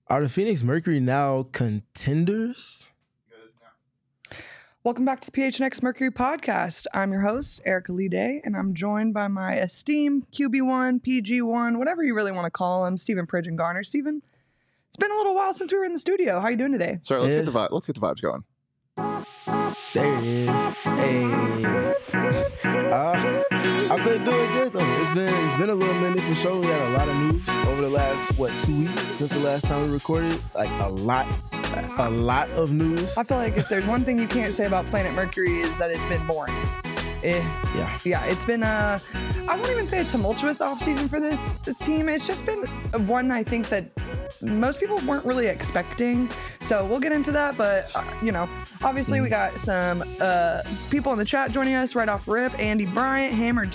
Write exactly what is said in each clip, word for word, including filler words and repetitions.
Are the Phoenix Mercury now contenders? Welcome back to the P H N X Mercury podcast. I'm your host, Erica Lee Day, and I'm joined by my esteemed Q B one, P G one, whatever you really want to call him, Stephen Pridgeon Garner. Stephen, it's been a little while since we were in the studio. How you doing today? Sorry, let's It get the is. vibe. Let's get the vibes going. There it is. Hey. Uh, I've been doing good though. It's been it's been a little minute for sure. We had a lot of news over the last what two weeks since the last time we recorded. Like a lot, a lot of news. I feel like if there's one thing you can't say about Planet Mercury is that it's been boring. It, Yeah. yeah, it's been a, I won't even say a tumultuous offseason for this, this team. It's just been one I think that most people weren't really expecting. So we'll get into that. But, uh, you know, obviously we got some uh, people in the chat joining us right off rip. Andy Bryant, Hammered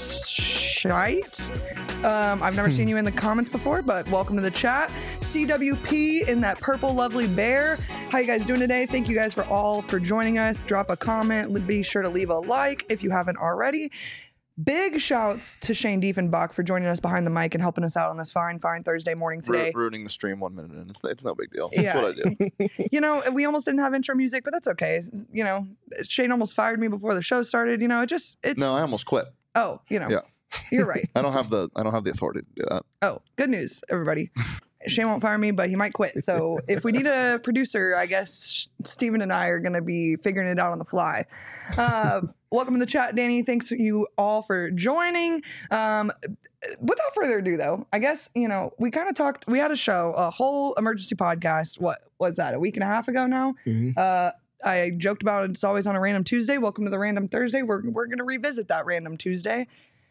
Shite. Um, I've never seen you in the comments before, but welcome to the chat. C W P in that purple lovely bear. How you guys doing today? Thank you guys for all for joining us. Drop a comment. Be sure to leave a like if you haven't already. Big shouts to Shane Diefenbach for joining us behind the mic and helping us out on this fine, fine Thursday morning today. Ru- ruining the stream one minute in. It's, it's no big deal. Yeah. That's what I do. You know, we almost didn't have intro music, but that's okay. You know, Shane almost fired me before the show started. You know, it just, it's, No, I almost quit. oh, you know, Yeah. you're right. I don't have the I don't have the authority to do that. Oh, good news, everybody. Shane won't fire me, but he might quit. So if we need a producer, I guess Steven and I are going to be figuring it out on the fly. Uh, welcome to the chat, Danny. Thanks you all for joining. Um, without further ado, though, I guess, you know, we kind of talked, we had a show, a whole emergency podcast. What was that, a week and a half ago now? Mhm. Uh, I joked about it. It's always on a random Tuesday. Welcome to the random Thursday. We're, we're going to revisit that random Tuesday,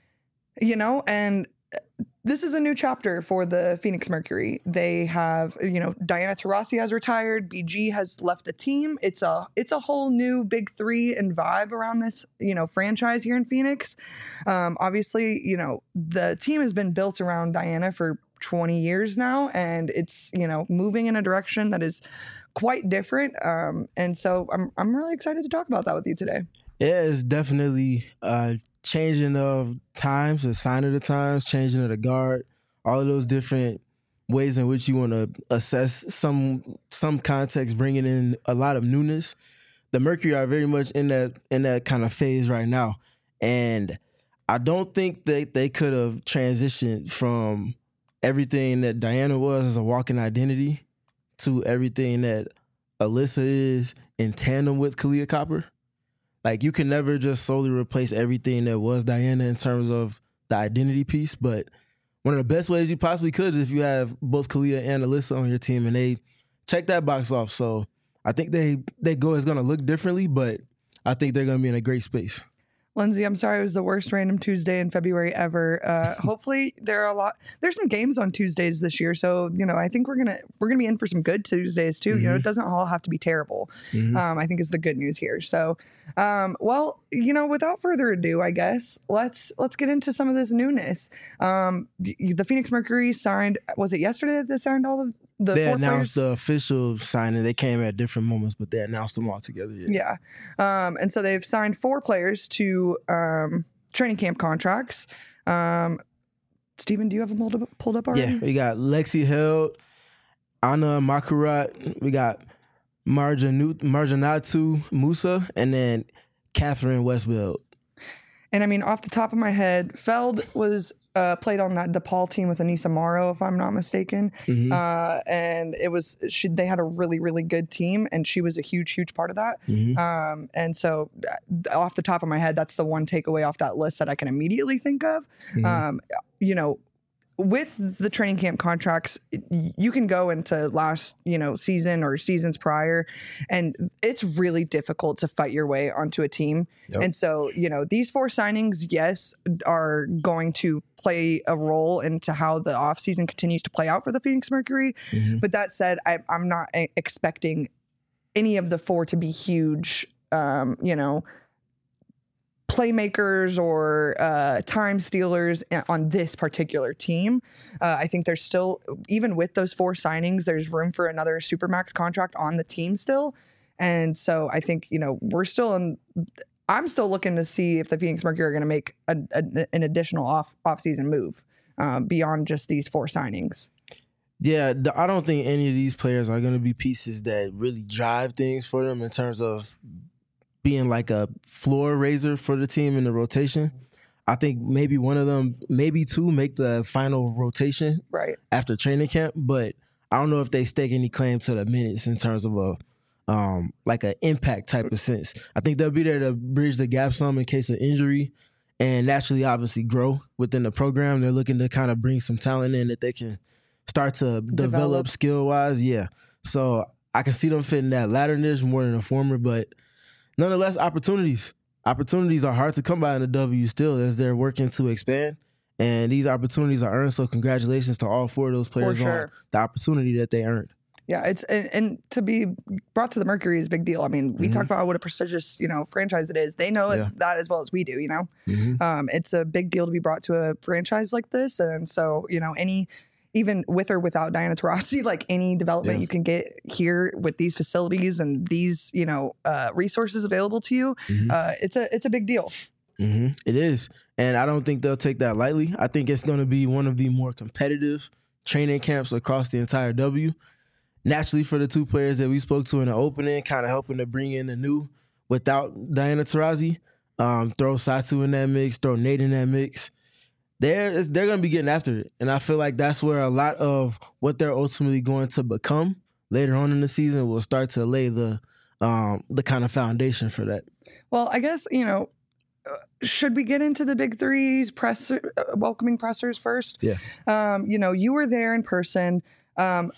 you know, and this is a new chapter for the Phoenix Mercury. They have, you know, Diana Taurasi has retired. B G has left the team. It's a it's a whole new big three and vibe around this, you know, franchise here in Phoenix. Um, obviously, you know, the team has been built around Diana for twenty years now, and it's, you know, moving in a direction that is quite different. Um, and so I'm I'm really excited to talk about that with you today. Yeah, it's definitely uh changing of times, the sign of the times, changing of the guard, all of those different ways in which you want to assess some some context, bringing in a lot of newness. The Mercury are very much in that in that kind of phase right now, and I don't think that they could have transitioned from everything that Diana was as a walking identity to everything that Alyssa is in tandem with Kalia Copper. Like, you can never just solely replace everything that was Diana in terms of the identity piece, but one of the best ways you possibly could is if you have both Kalia and Alyssa on your team and they check that box off. So I think they they go is going to look differently, but I think they're going to be in a great space. Lindsay, I'm sorry it was the worst random Tuesday in February ever. Uh, hopefully there are a lot. There's some games on Tuesdays this year, so you know I think we're gonna we're gonna be in for some good Tuesdays too. Mm-hmm. You know, it doesn't all have to be terrible. Mm-hmm. Um, I think is the good news here. So, um, well, you know, without further ado, I guess let's let's get into some of this newness. Um, the, the Phoenix Mercury signed. Was it yesterday that they signed all of the? They four announced players? the official signing. They came at different moments, but they announced them all together. Yeah, yeah. Um, and so they've signed four players to um, training camp contracts. Um, Steven, do you have them pulled up, pulled up already? Yeah, we got Lexi Held, Anna Makurat, we got Marjanu, Marjanatu Musa, and then Catherine Westfield. And I mean, off the top of my head, Feld was uh, played on that DePaul team with Anissa Morrow, if I'm not mistaken. Mm-hmm. Uh, and it was she, they had a really, really good team, and she was a huge, huge part of that. Mm-hmm. Um, and so, off the top of my head, that's the one takeaway off that list that I can immediately think of. Mm-hmm. Um, you know, with the training camp contracts, you can go into last, you know, season or seasons prior, and it's really difficult to fight your way onto a team. Yep. And so, you know, these four signings, yes, are going to play a role into how the offseason continues to play out for the Phoenix Mercury. Mm-hmm. But that said, I, I'm not expecting any of the four to be huge, um, you know, playmakers or uh, time stealers on this particular team. Uh, I think there's still, even with those four signings, there's room for another Supermax contract on the team still. And so I think, you know, we're still in, I'm still looking to see if the Phoenix Mercury are going to make a, a, an additional off off-season move um, beyond just these four signings. Yeah, the, I don't think any of these players are going to be pieces that really drive things for them in terms of being like a floor raiser for the team in the rotation. I think maybe one of them, maybe two, make the final rotation Right. after training camp, but I don't know if they stake any claim to the minutes in terms of a um, like an impact type of sense. I think they'll be there to bridge the gap some in case of injury and naturally, obviously, grow within the program. They're looking to kind of bring some talent in that they can start to develop, Develop. skill-wise. Yeah. So I can see them fitting that latter niche more than a former, but nonetheless, opportunities. Opportunities are hard to come by in the W still as they're working to expand. And these opportunities are earned, so congratulations to all four of those players sure. on the opportunity that they earned. Yeah, it's and, and to be brought to the Mercury is a big deal. I mean, we Mhm. talk about what a prestigious, you know, franchise it is. They know Yeah. it, that as well as we do, you know. Mhm. Um, it's a big deal to be brought to a franchise like this. And so, you know, any even with or without Diana Taurasi, like any development Yeah. you can get here with these facilities and these, you know, uh, resources available to you, Mhm. uh, it's a it's a big deal. hmm It is. And I don't think they'll take that lightly. I think it's going to be one of the more competitive training camps across the entire W. Naturally, for the two players that we spoke to in the opening, kind of helping to bring in the new without Diana Taurasi, um, throw Satu in that mix, throw Nate in that mix. They're, they're going to be getting after it. And I feel like that's where a lot of what they're ultimately going to become later on in the season will start to lay the um, the kind of foundation for that. Well, I guess, you know, uh, should we get into the big three press uh, welcoming pressers first? Yeah. Um, you know, you were there in person. Um,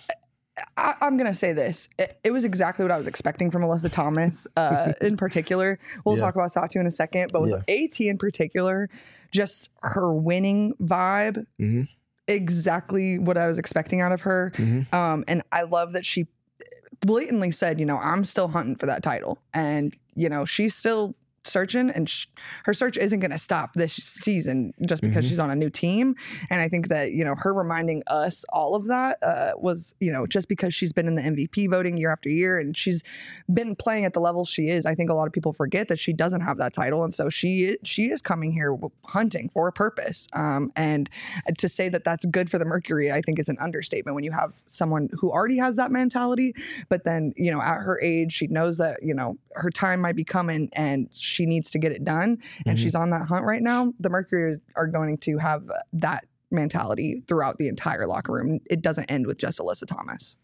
I, I'm going to say this. It, it was exactly what I was expecting from Alyssa Thomas uh, in particular. We'll Yeah. talk about Satu in a second, but with Yeah. AT in particular, just her winning vibe, Mhm. exactly what I was expecting out of her. Mhm. Um, and I love that she blatantly said, you know, I'm still hunting for that title. And, you know, she's still searching, and sh- her search isn't going to stop this season just because Mhm. she's on a new team. And I think that, you know, her reminding us all of that uh, was, you know, just because she's been in the M V P voting year after year and she's been playing at the level she is, I think a lot of people forget that she doesn't have that title. And so she is, she is coming here hunting for a purpose. Um, and to say that that's good for the Mercury, I think is an understatement when you have someone who already has that mentality, but then, you know, at her age, she knows that, you know, her time might be coming and she needs to get it done. And Mhm. she's on that hunt right now. The Mercury are going to have that mentality throughout the entire locker room. It doesn't end with just Alyssa Thomas.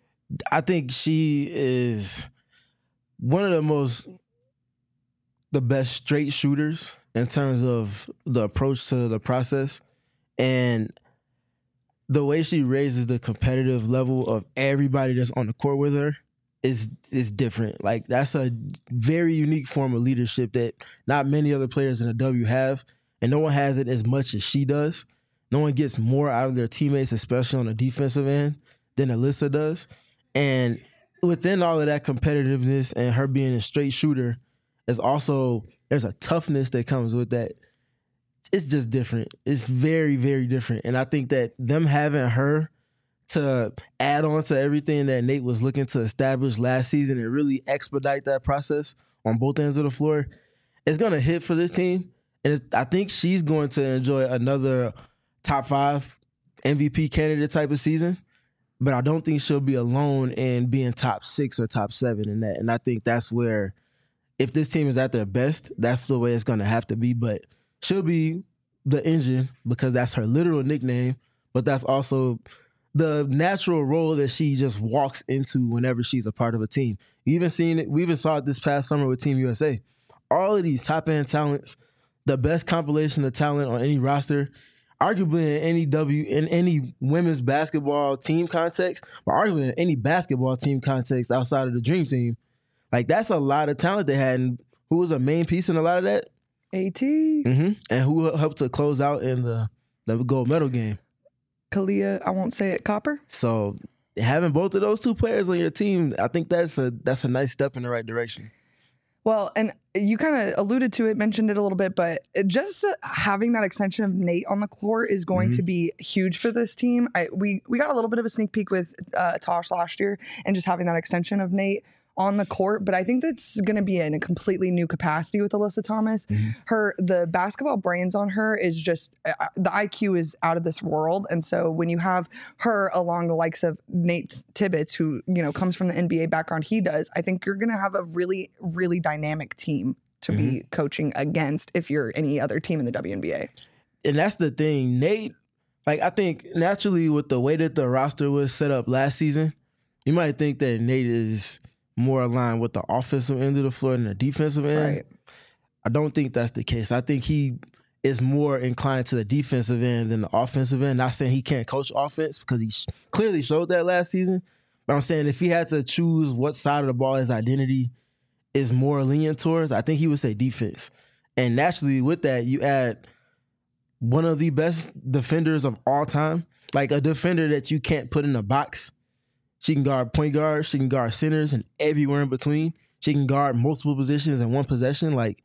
I think she is one of the most, the best straight shooters in terms of the approach to the process. And the way she raises the competitive level of everybody that's on the court with her is is different. Like, that's a very unique form of leadership that not many other players in the W have, and no one has it as much as she does. No one gets more out of their teammates, especially on the defensive end, than Alyssa does. And within all of that competitiveness and her being a straight shooter, is also, there's a toughness that comes with that. It's just different. It's very, very different. And I think that them having her to add on to everything that Nate was looking to establish last season and really expedite that process on both ends of the floor, it's going to hit for this team. And it's, I think she's going to enjoy another top five M V P candidate type of season. But I don't think she'll be alone in being top six or top seven in that. And I think that's where, if this team is at their best, that's the way it's going to have to be. But she'll be the engine because that's her literal nickname, but that's also the natural role that she just walks into whenever she's a part of a team. You even seen it, we even saw it this past summer with Team U S A. All of these top-end talents, the best compilation of talent on any roster, arguably in any W, in any women's basketball team context, but arguably in any basketball team context outside of the Dream Team. Like, that's a lot of talent they had. And who was a main piece in a lot of that? AT, Mm-hmm. And who helped to close out in the, the gold medal game. Kalia, I won't say it, Copper. So having both of those two players on your team, I think that's a that's a nice step in the right direction. Well, and you kind of alluded to it, mentioned it a little bit, but it just the, having that extension of Nate on the court is going Mhm. to be huge for this team. I, we we got a little bit of a sneak peek with uh, Tosh last year, and just having that extension of Nate on the court, but I think that's going to be in a completely new capacity with Alyssa Thomas. Mm-hmm. Her the basketball brains on her is just uh, the I Q is out of this world, and so when you have her along the likes of Nate Tibbetts, who you know comes from the N B A background, he does. I think you're going to have a really really dynamic team to mm-hmm. be coaching against if you're any other team in the W N B A. And that's the thing, Nate. Like I think naturally with the way that the roster was set up last season, you might think that Nate is more aligned with the offensive end of the floor than the defensive end. Right. I don't think that's the case. I think he is more inclined to the defensive end than the offensive end. Not saying he can't coach offense because he sh- clearly showed that last season. But I'm saying if he had to choose what side of the ball his identity is more lenient towards, I think he would say defense. And naturally with that, you add one of the best defenders of all time, like a defender that you can't put in a box. She can guard point guards, she can guard centers and everywhere in between. She can guard multiple positions in one possession. Like,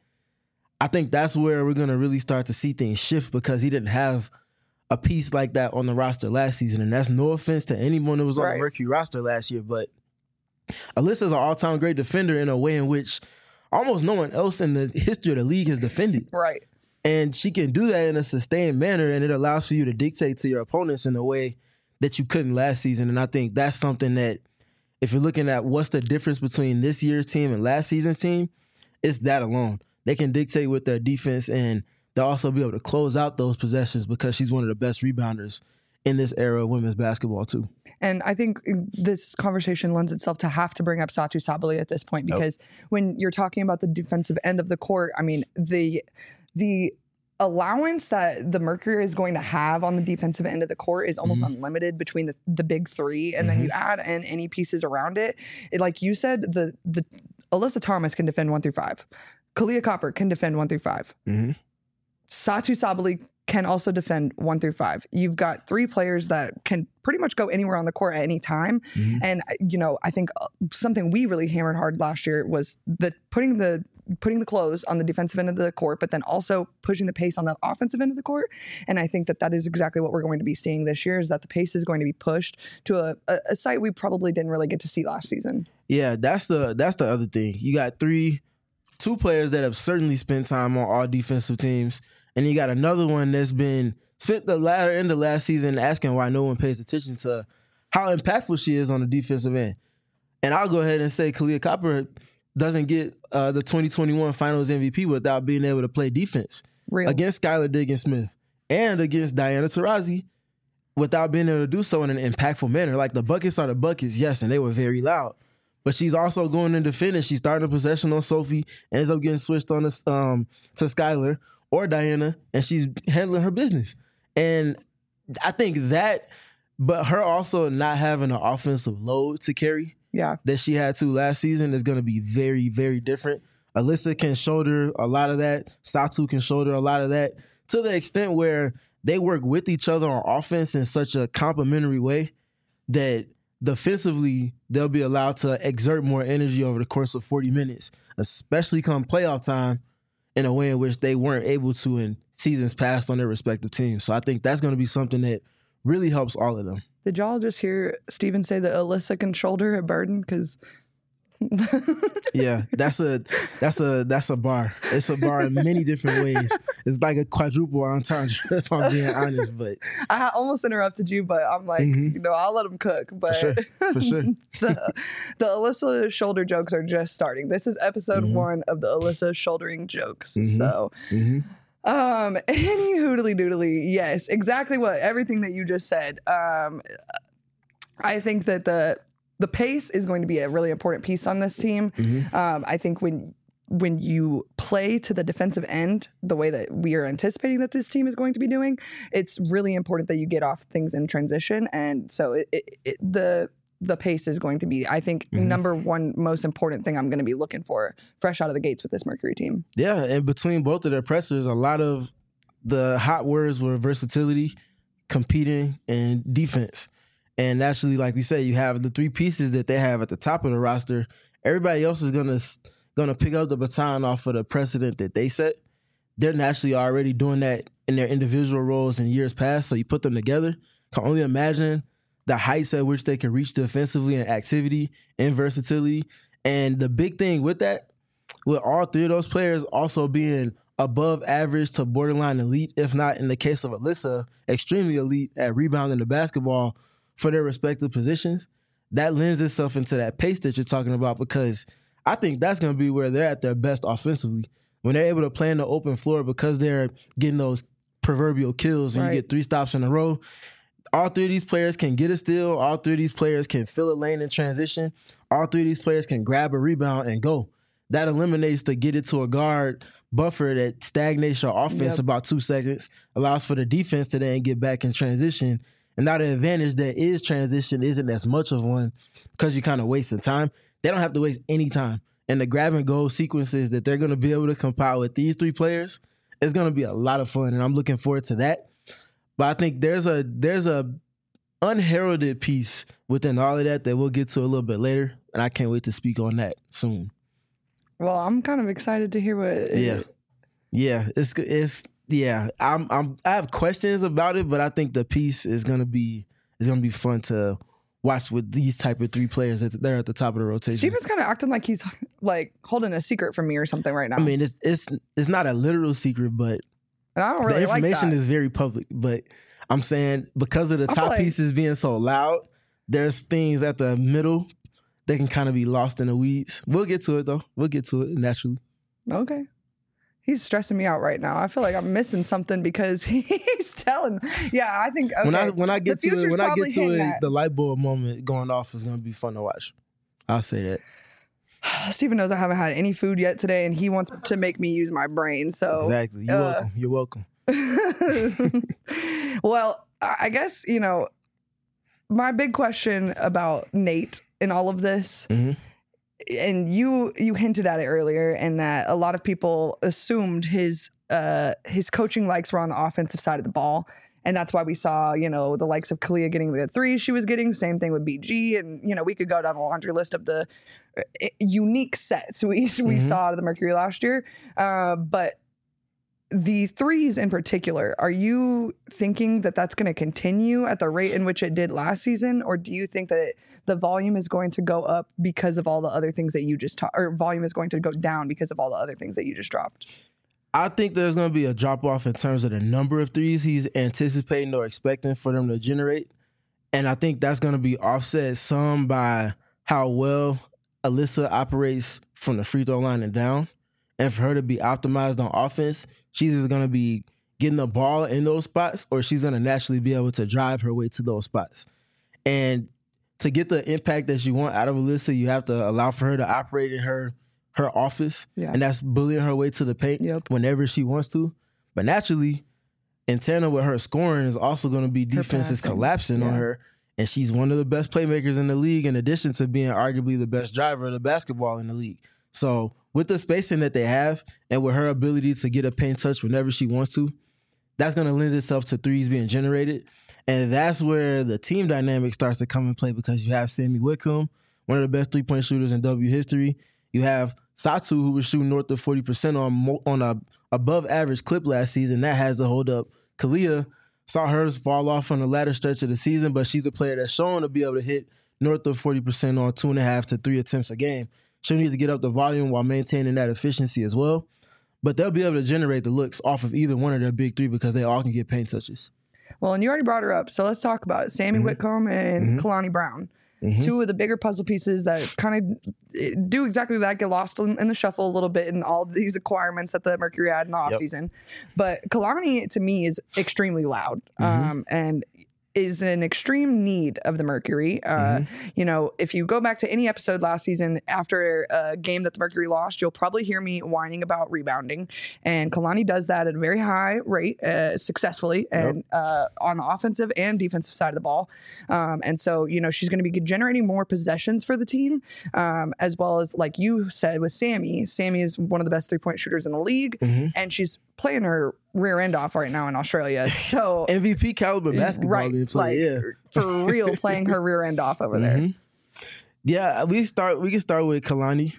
I think that's where we're going to really start to see things shift because he didn't have a piece like that on the roster last season. And that's no offense to anyone that was on right. the Mercury roster last year, but Alyssa's an all-time great defender in a way in which almost no one else in the history of the league has defended. Right. And she can do that in a sustained manner, and it allows for you to dictate to your opponents in a way that you couldn't last season. And I think that's something that if you're looking at what's the difference between this year's team and last season's team, it's that alone. They can dictate with their defense, and they'll also be able to close out those possessions because she's one of the best rebounders in this era of women's basketball too. And I think this conversation lends itself to have to bring up Satou Sabally at this point because yep. when you're talking about the defensive end of the court, I mean, the the allowance that the Mercury is going to have on the defensive end of the court is almost mm-hmm. unlimited between the, the big three. And mm-hmm. then you add in any pieces around it. it. Like you said, the the Alyssa Thomas can defend one through five. Kahleah Copper can defend one through five. Mm-hmm. Satou Sabally can also defend one through five. You've got three players that can pretty much go anywhere on the court at any time. Mm-hmm. And, you know, I think something we really hammered hard last year was that putting the putting the clothes on the defensive end of the court, but then also pushing the pace on the offensive end of the court. And I think that that is exactly what we're going to be seeing this year is that the pace is going to be pushed to a, a, a site we probably didn't really get to see last season. Yeah, that's the that's the other thing. You got three, two players that have certainly spent time on all defensive teams. And you got another one that's been spent the latter end of last season asking why no one pays attention to how impactful she is on the defensive end. And I'll go ahead and say Kahleah Copper doesn't get uh, the twenty twenty-one Finals M V P without being able to play defense Real. against Skylar Diggins-Smith and against Diana Taurasi without being able to do so in an impactful manner. Like the buckets are the buckets, yes, and they were very loud. But she's also going into finish. She's starting a possession on Sophie, ends up getting switched on to, um, to Skylar or Diana, and she's handling her business. And I think that, but her also not having an offensive load to carry yeah. that she had to last season is going to be very, very different. Alyssa can shoulder a lot of that. Satou can shoulder a lot of that to the extent where they work with each other on offense in such a complementary way that defensively they'll be allowed to exert more energy over the course of forty minutes, especially come playoff time, in a way in which they weren't able to in seasons past on their respective teams. So I think that's going to be something that really helps all of them. Did y'all just hear Steven say that Alyssa can shoulder a burden? Because yeah, that's a that's a that's a bar. It's a bar in many different ways. It's like a quadruple entendre, if I'm being honest. But I almost interrupted you, but I'm like, mm-hmm. you know, I'll let him cook. But for sure, for sure. the, the Alyssa shoulder jokes are just starting. This is episode mm-hmm. one of the Alyssa shouldering jokes. Mm-hmm. So. Mm-hmm. Um, any hoodly doodly, yes, exactly what everything that you just said. Um, I think that the the pace is going to be a really important piece on this team. Mm-hmm. Um, I think when when you play to the defensive end the way that we are anticipating that this team is going to be doing, it's really important that you get off things in transition. And so it, it, it, the the pace is going to be, I think, mm-hmm. number one most important thing I'm going to be looking for fresh out of the gates with this Mercury team. Yeah, and between both of their pressers, a lot of the hot words were versatility, competing, and defense. And naturally, like we said, you have the three pieces that they have at the top of the roster. Everybody else is gonna gonna pick up the baton off of the precedent that they set. They're naturally already doing that in their individual roles in years past. So you put them together, can only imagine the heights at which they can reach defensively and activity and versatility. And the big thing with that, with all three of those players also being above average to borderline elite, if not in the case of Alyssa, extremely elite at rebounding the basketball for their respective positions, that lends itself into that pace that you're talking about, because I think that's going to be where they're at their best offensively. When they're able to play in the open floor because they're getting those proverbial kills when Right. you get three stops in a row. All three of these players can get a steal. All three of these players can fill a lane in transition. All three of these players can grab a rebound and go. That eliminates the get it to a guard buffer that stagnates your offense Yep. about two seconds, allows for the defense to then get back in transition. And now the advantage that is transition isn't as much of one because you're kind of wasting time. They don't have to waste any time. And the grab and go sequences that they're going to be able to compile with these three players is going to be a lot of fun, and I'm looking forward to that. But I think there's a there's a unheralded piece within all of that that we'll get to a little bit later, and I can't wait to speak on that soon. Well, I'm kind of excited to hear what. Yeah, yeah, it's it's yeah. I'm I'm I have questions about it, but I think the piece is gonna be is gonna be fun to watch with these type of three players that they're at the top of the rotation. Steven's kind of acting like he's like holding a secret from me or something right now. I mean, it's it's it's not a literal secret, but and I don't really the information like that. is very public. But I'm saying because of the I feel top like- pieces being so loud, there's things at the middle that can kind of be lost in the weeds. We'll get to it though. We'll get to it naturally. Okay. He's stressing me out right now. I feel like I'm missing something because he's telling. Yeah, I think okay. When I when I get The to it, future's when I probably get to hitting it, that. the light bulb moment going off is gonna be fun to watch. I'll say that. Steven knows I haven't had any food yet today, and he wants to make me use my brain. So Exactly. You're uh, welcome. You're welcome. well, I guess, you know, my big question about Nate in all of this, Mhm. and you you hinted at it earlier, and that a lot of people assumed his uh, his coaching likes were on the offensive side of the ball. And that's why we saw, you know, the likes of Kalia getting the threes she was getting. Same thing with B G. And, you know, we could go down the laundry list of the uh, unique sets we, we Mhm. saw out of the Mercury last year. Uh, but the threes in particular, are you thinking that that's going to continue at the rate in which it did last season? Or do you think that the volume is going to go up because of all the other things that you just taught, or volume is going to go down because of all the other things that you just dropped? I think there's going to be a drop off in terms of the number of threes he's anticipating or expecting for them to generate. And I think that's going to be offset some by how well Alyssa operates from the free throw line and down. And for her to be optimized on offense, she's either going to be getting the ball in those spots or she's going to naturally be able to drive her way to those spots. And to get the impact that you want out of Alyssa, you have to allow for her to operate in her her office, Yeah. and that's bullying her way to the paint Yep. whenever she wants to. But naturally, in tandem with her scoring is also going to be defenses passing. collapsing on Yeah. her, and she's one of the best playmakers in the league in addition to being arguably the best driver of the basketball in the league. So with the spacing that they have and with her ability to get a paint touch whenever she wants to, that's going to lend itself to threes being generated. And that's where the team dynamic starts to come and play because you have Sammy Whitcomb, one of the best three-point shooters in W history. You have Satu, who was shooting north of forty percent on mo- on a above average clip last season. That has to hold up. Kalia saw hers fall off on the latter stretch of the season, but she's a player that's shown to be able to hit north of forty percent on two and a half to three attempts a game. She'll need to get up the volume while maintaining that efficiency as well. But they'll be able to generate the looks off of either one of their big three because they all can get paint touches. Well, and you already brought her up, so let's talk about it. Sammy Mm-hmm. Whitcomb and Kalani Brown. Mhm. Two of the bigger puzzle pieces that kind of do exactly that, get lost in, in the shuffle a little bit in all these acquirements that the Mercury had in the offseason. But Kalani, to me, is extremely loud Mm-hmm. um, and is an extreme need of the Mercury. Uh, Mm-hmm. You know, if you go back to any episode last season after a game that the Mercury lost, you'll probably hear me whining about rebounding. And Kalani does that at a very high rate, uh, successfully, and uh, on the offensive and defensive side of the ball. Um, and so, you know, she's going to be generating more possessions for the team, um, as well as, like you said, with Sammy. Sammy is one of the best three-point shooters in the league, Mm-hmm. and she's playing her rear end off right now in Australia. So M V P caliber basketball right, being played. like, Yeah. for real, playing her rear end off over there. Mhm. Yeah, we start. We can start with Kalani,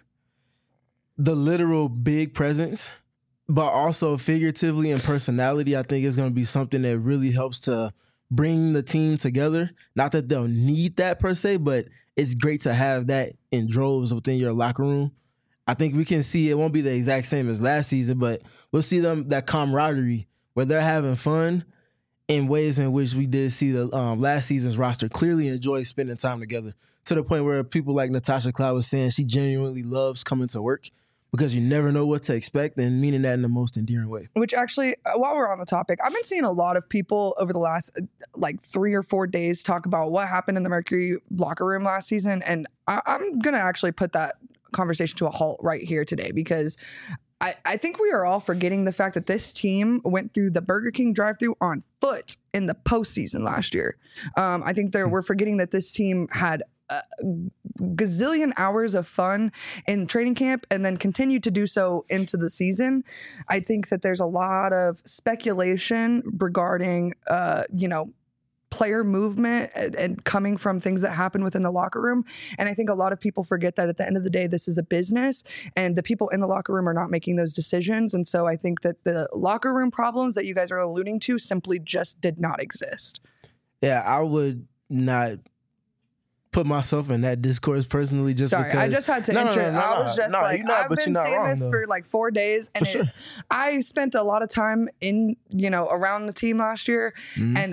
the literal big presence, but also figuratively and personality. I think is going to be something that really helps to bring the team together. Not that they'll need that per se, but it's great to have that in droves within your locker room. I think we can see it won't be the exact same as last season, but we'll see them that camaraderie where they're having fun in ways in which we did see the um, last season's roster clearly enjoy spending time together, to the point where people like Natasha Cloud was saying she genuinely loves coming to work because you never know what to expect, and meaning that in the most endearing way. Which actually, uh, while we're on the topic, I've been seeing a lot of people over the last uh, like three or four days talk about what happened in the Mercury locker room last season. And I- I'm going to actually put that conversation to a halt right here today, because I, I think we are all forgetting the fact that this team went through the Burger King drive-thru on foot in the postseason last year. Um, I think there, we're forgetting that this team had a gazillion hours of fun in training camp and then continued to do so into the season. I think that there's a lot of speculation regarding, uh, you know, player movement and, and coming from things that happen within the locker room. And I think a lot of people forget that at the end of the day, this is a business and the people in the locker room are not making those decisions. And so I think that the locker room problems that you guys are alluding to simply just did not exist. Yeah, I would not put myself in that discourse personally, just Sorry, because. I just had to No, no, enter. no, no, I was just no, like, you're not, I've but been you're not seeing wrong, this though. for like four days, and For sure. it, I spent a lot of time in, you know, around the team last year, Mhm. and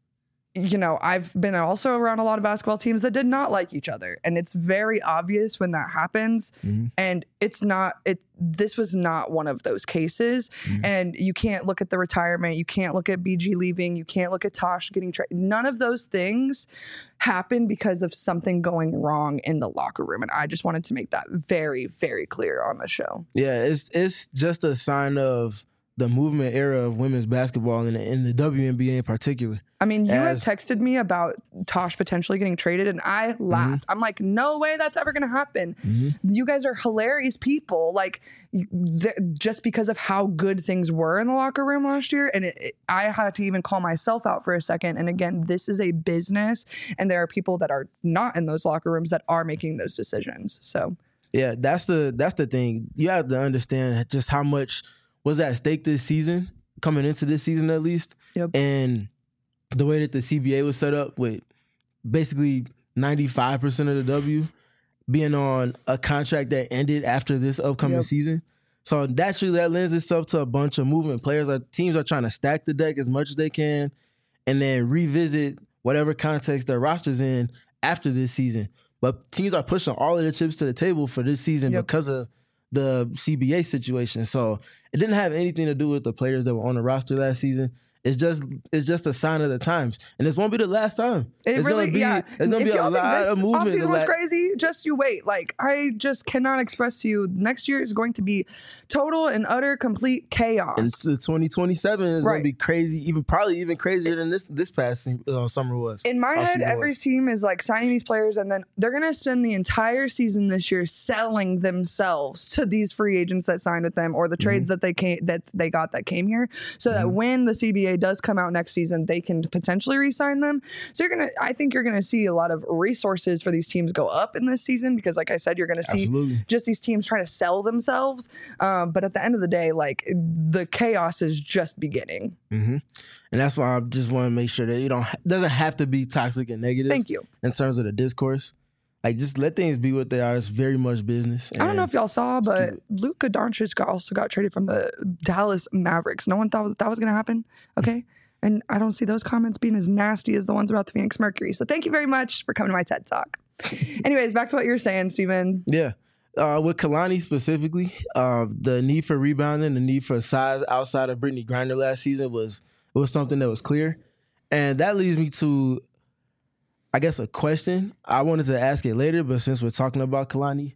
you know, I've been also around a lot of basketball teams that did not like each other, and it's very obvious when that happens. Mhm. And it's not it. This was not one of those cases, Mhm. and you can't look at the retirement. You can't look at B G leaving. You can't look at Tosh getting traded. None of those things happened because of something going wrong in the locker room, and I just wanted to make that very, very clear on the show. Yeah, it's it's just a sign of the movement era of women's basketball and in the W N B A in particular. I mean, you As- had texted me about Tosh potentially getting traded, and I laughed. I'm like, no way that's ever going to happen. Mhm. You guys are hilarious people. Like, th- just because of how good things were in the locker room last year. And it, it, I had to even call myself out for a second. And again, this is a business, and there are people that are not in those locker rooms that are making those decisions. So, Yeah, that's the that's the thing. You have to understand just how much was at stake this season, coming into this season at least. Yep. And the way that the C B A was set up with basically ninety-five percent of the W being on a contract that ended after this upcoming Yep. season. So naturally that lends itself to a bunch of movement. Players are teams are trying to stack the deck as much as they can and then revisit whatever context their roster's in after this season. But teams are pushing all of the chips to the table for this season Yep. because of the C B A situation. So it didn't have anything to do with the players that were on the roster last season. It's just it's just a sign of the times, and this won't be the last time. it it's really, gonna be, yeah. It's gonna if be a y'all think lot this of movement. offseason the was la- crazy, just you wait. Like, I just cannot express to you, next year is going to be total and utter complete chaos. And so twenty twenty-seven is Right. gonna be crazy, even probably even crazier than this this past uh, summer was. In my head, Offseason every was. team is like signing these players, and then they're going to spend the entire season this year selling themselves to these free agents that signed with them, or the trades that they came that they got that came here, so that when the C B A does come out next season, they can potentially re-sign them. So you're gonna, I think you're going to see a lot of resources for these teams go up in this season, because, like I said, you're going to see Absolutely. just these teams trying to sell themselves. Um, but at the end of the day, like, the chaos is just beginning. hmm And that's why I just want to make sure that you don't doesn't have to be toxic and negative. Thank you. In terms of the discourse, like just let things be what they are. It's very much business. I don't know if y'all saw, keep but Luka Doncic got also got traded from the Dallas Mavericks. No one thought was, that was going to happen. Okay. And I don't see those comments being as nasty as the ones about the Phoenix Mercury. So thank you very much for coming to my TED Talk. Anyways, back to what you were saying, Steven. Yeah. Uh, with Kalani specifically, uh, the need for rebounding, the need for size outside of Brittany Griner last season was it was something that was clear. And that leads me to, I guess, a question. I wanted to ask it later, but since we're talking about Kalani,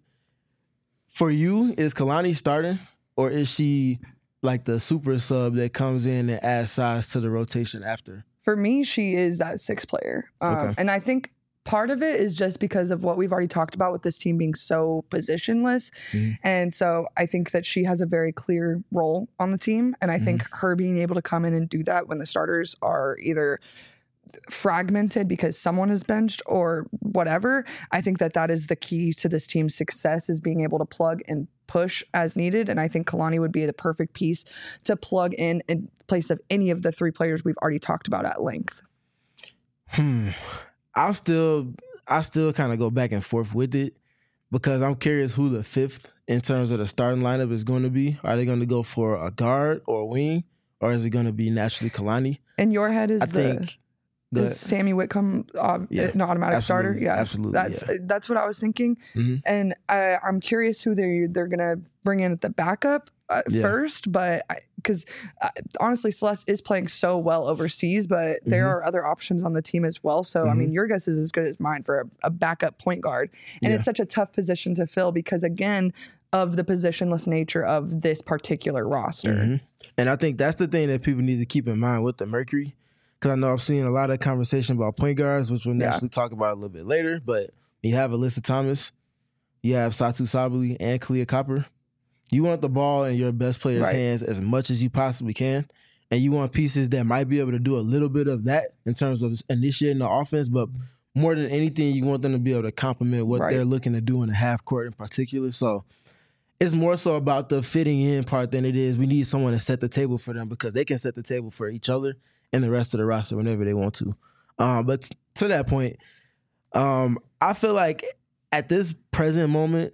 for you, is Kalani starting, or is she like the super sub that comes in and adds size to the rotation after? For me, she is that sixth player. Um, Okay. And I think part of it is just because of what we've already talked about with this team being so positionless. Mhm. And so I think that she has a very clear role on the team. And I think her being able to come in and do that when the starters are either fragmented because someone is benched or whatever, I think that that is the key to this team's success, is being able to plug and push as needed. And I think Kalani would be the perfect piece to plug in in place of any of the three players we've already talked about at length. Hmm. I'll still, I still kind of go back and forth with it because I'm curious who the fifth in terms of the starting lineup is going to be. Are they going to go for a guard or a wing, or is it going to be naturally Kalani? In your head is I the think the, is Sammy Whitcomb uh, Yeah, an automatic absolutely, starter? Yeah, absolutely, That's yeah. that's what I was thinking, Mhm. and I, I'm curious who they they're gonna bring in at the backup uh, Yeah. first, but because uh, honestly, Celeste is playing so well overseas, but there Mhm. are other options on the team as well. So I Mhm. mean, your guess is as good as mine for a, a backup point guard, and Yeah. it's such a tough position to fill because again of the positionless nature of this particular roster. Mhm. And I think that's the thing that people need to keep in mind with the Mercury. Because I know I've seen a lot of conversation about point guards, which we'll Yeah. naturally talk about a little bit later. But you have Alyssa Thomas, you have Satu Sabali, and Kalia Copper. You want the ball in your best player's Right. hands as much as you possibly can. And you want pieces that might be able to do a little bit of that in terms of initiating the offense. But more than anything, you want them to be able to complement what Right. they're looking to do in the half court in particular. So it's more so about the fitting in part than it is we need someone to set the table for them because they can set the table for each other and the rest of the roster whenever they want to. Um, but to that point, um, I feel like at this present moment,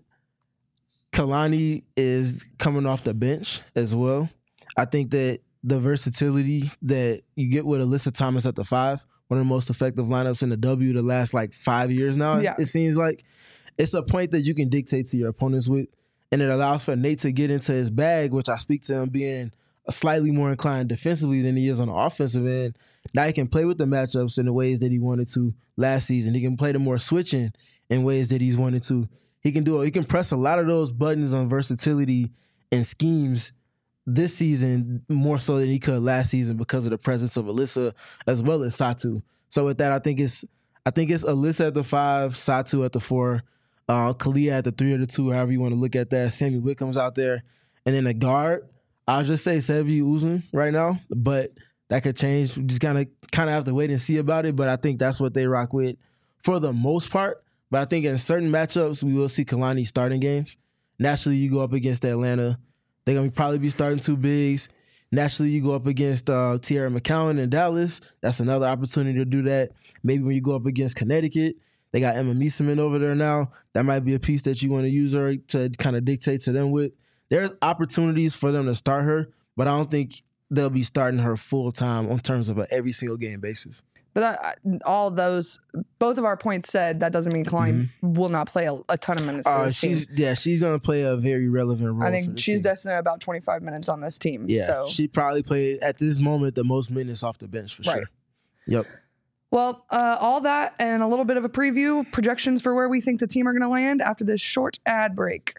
Kalani is coming off the bench as well. I think that the versatility that you get with Alyssa Thomas at the five, one of the most effective lineups in the W the last like five years now, Yeah. it seems like. It's a point that you can dictate to your opponents with, and it allows for Nate to get into his bag, which I speak to him being a slightly more inclined defensively than he is on the offensive end. Now he can play with the matchups in the ways that he wanted to last season. He can play the more switching in ways that he's wanted to. He can do it. He can press a lot of those buttons on versatility and schemes this season more so than he could last season because of the presence of Alyssa as well as Satu. So with that, I think it's I think it's Alyssa at the five, Satu at the four, uh, Kalia at the three or the two, however you want to look at that. Sammy Whitcomb's out there, and then the guard. I'll just say Sevi Uzun right now, but that could change. We just kind of kind of have to wait and see about it. But I think that's what they rock with for the most part. But I think in certain matchups, we will see Kalani starting games. Naturally, you go up against Atlanta. They're going to probably be starting two bigs. Naturally, you go up against uh, Tierra McCowan in Dallas. That's another opportunity to do that. Maybe when you go up against Connecticut, they got Emma Meeseman over there now. That might be a piece that you want to use her to kind of dictate to them with. There's opportunities for them to start her, but I don't think they'll be starting her full time on terms of an every single game basis. But that, all those, both of our points said that doesn't mean Kalani will not play a, a ton of minutes for Uh, this team. she's yeah, she's gonna play a very relevant role. I for think this she's team. destined at about twenty-five minutes on this team. Yeah, So. she probably played at this moment the most minutes off the bench for Right. sure. Yep. Well, uh, all that and a little bit of a preview, projections for where we think the team are going to land after this short ad break.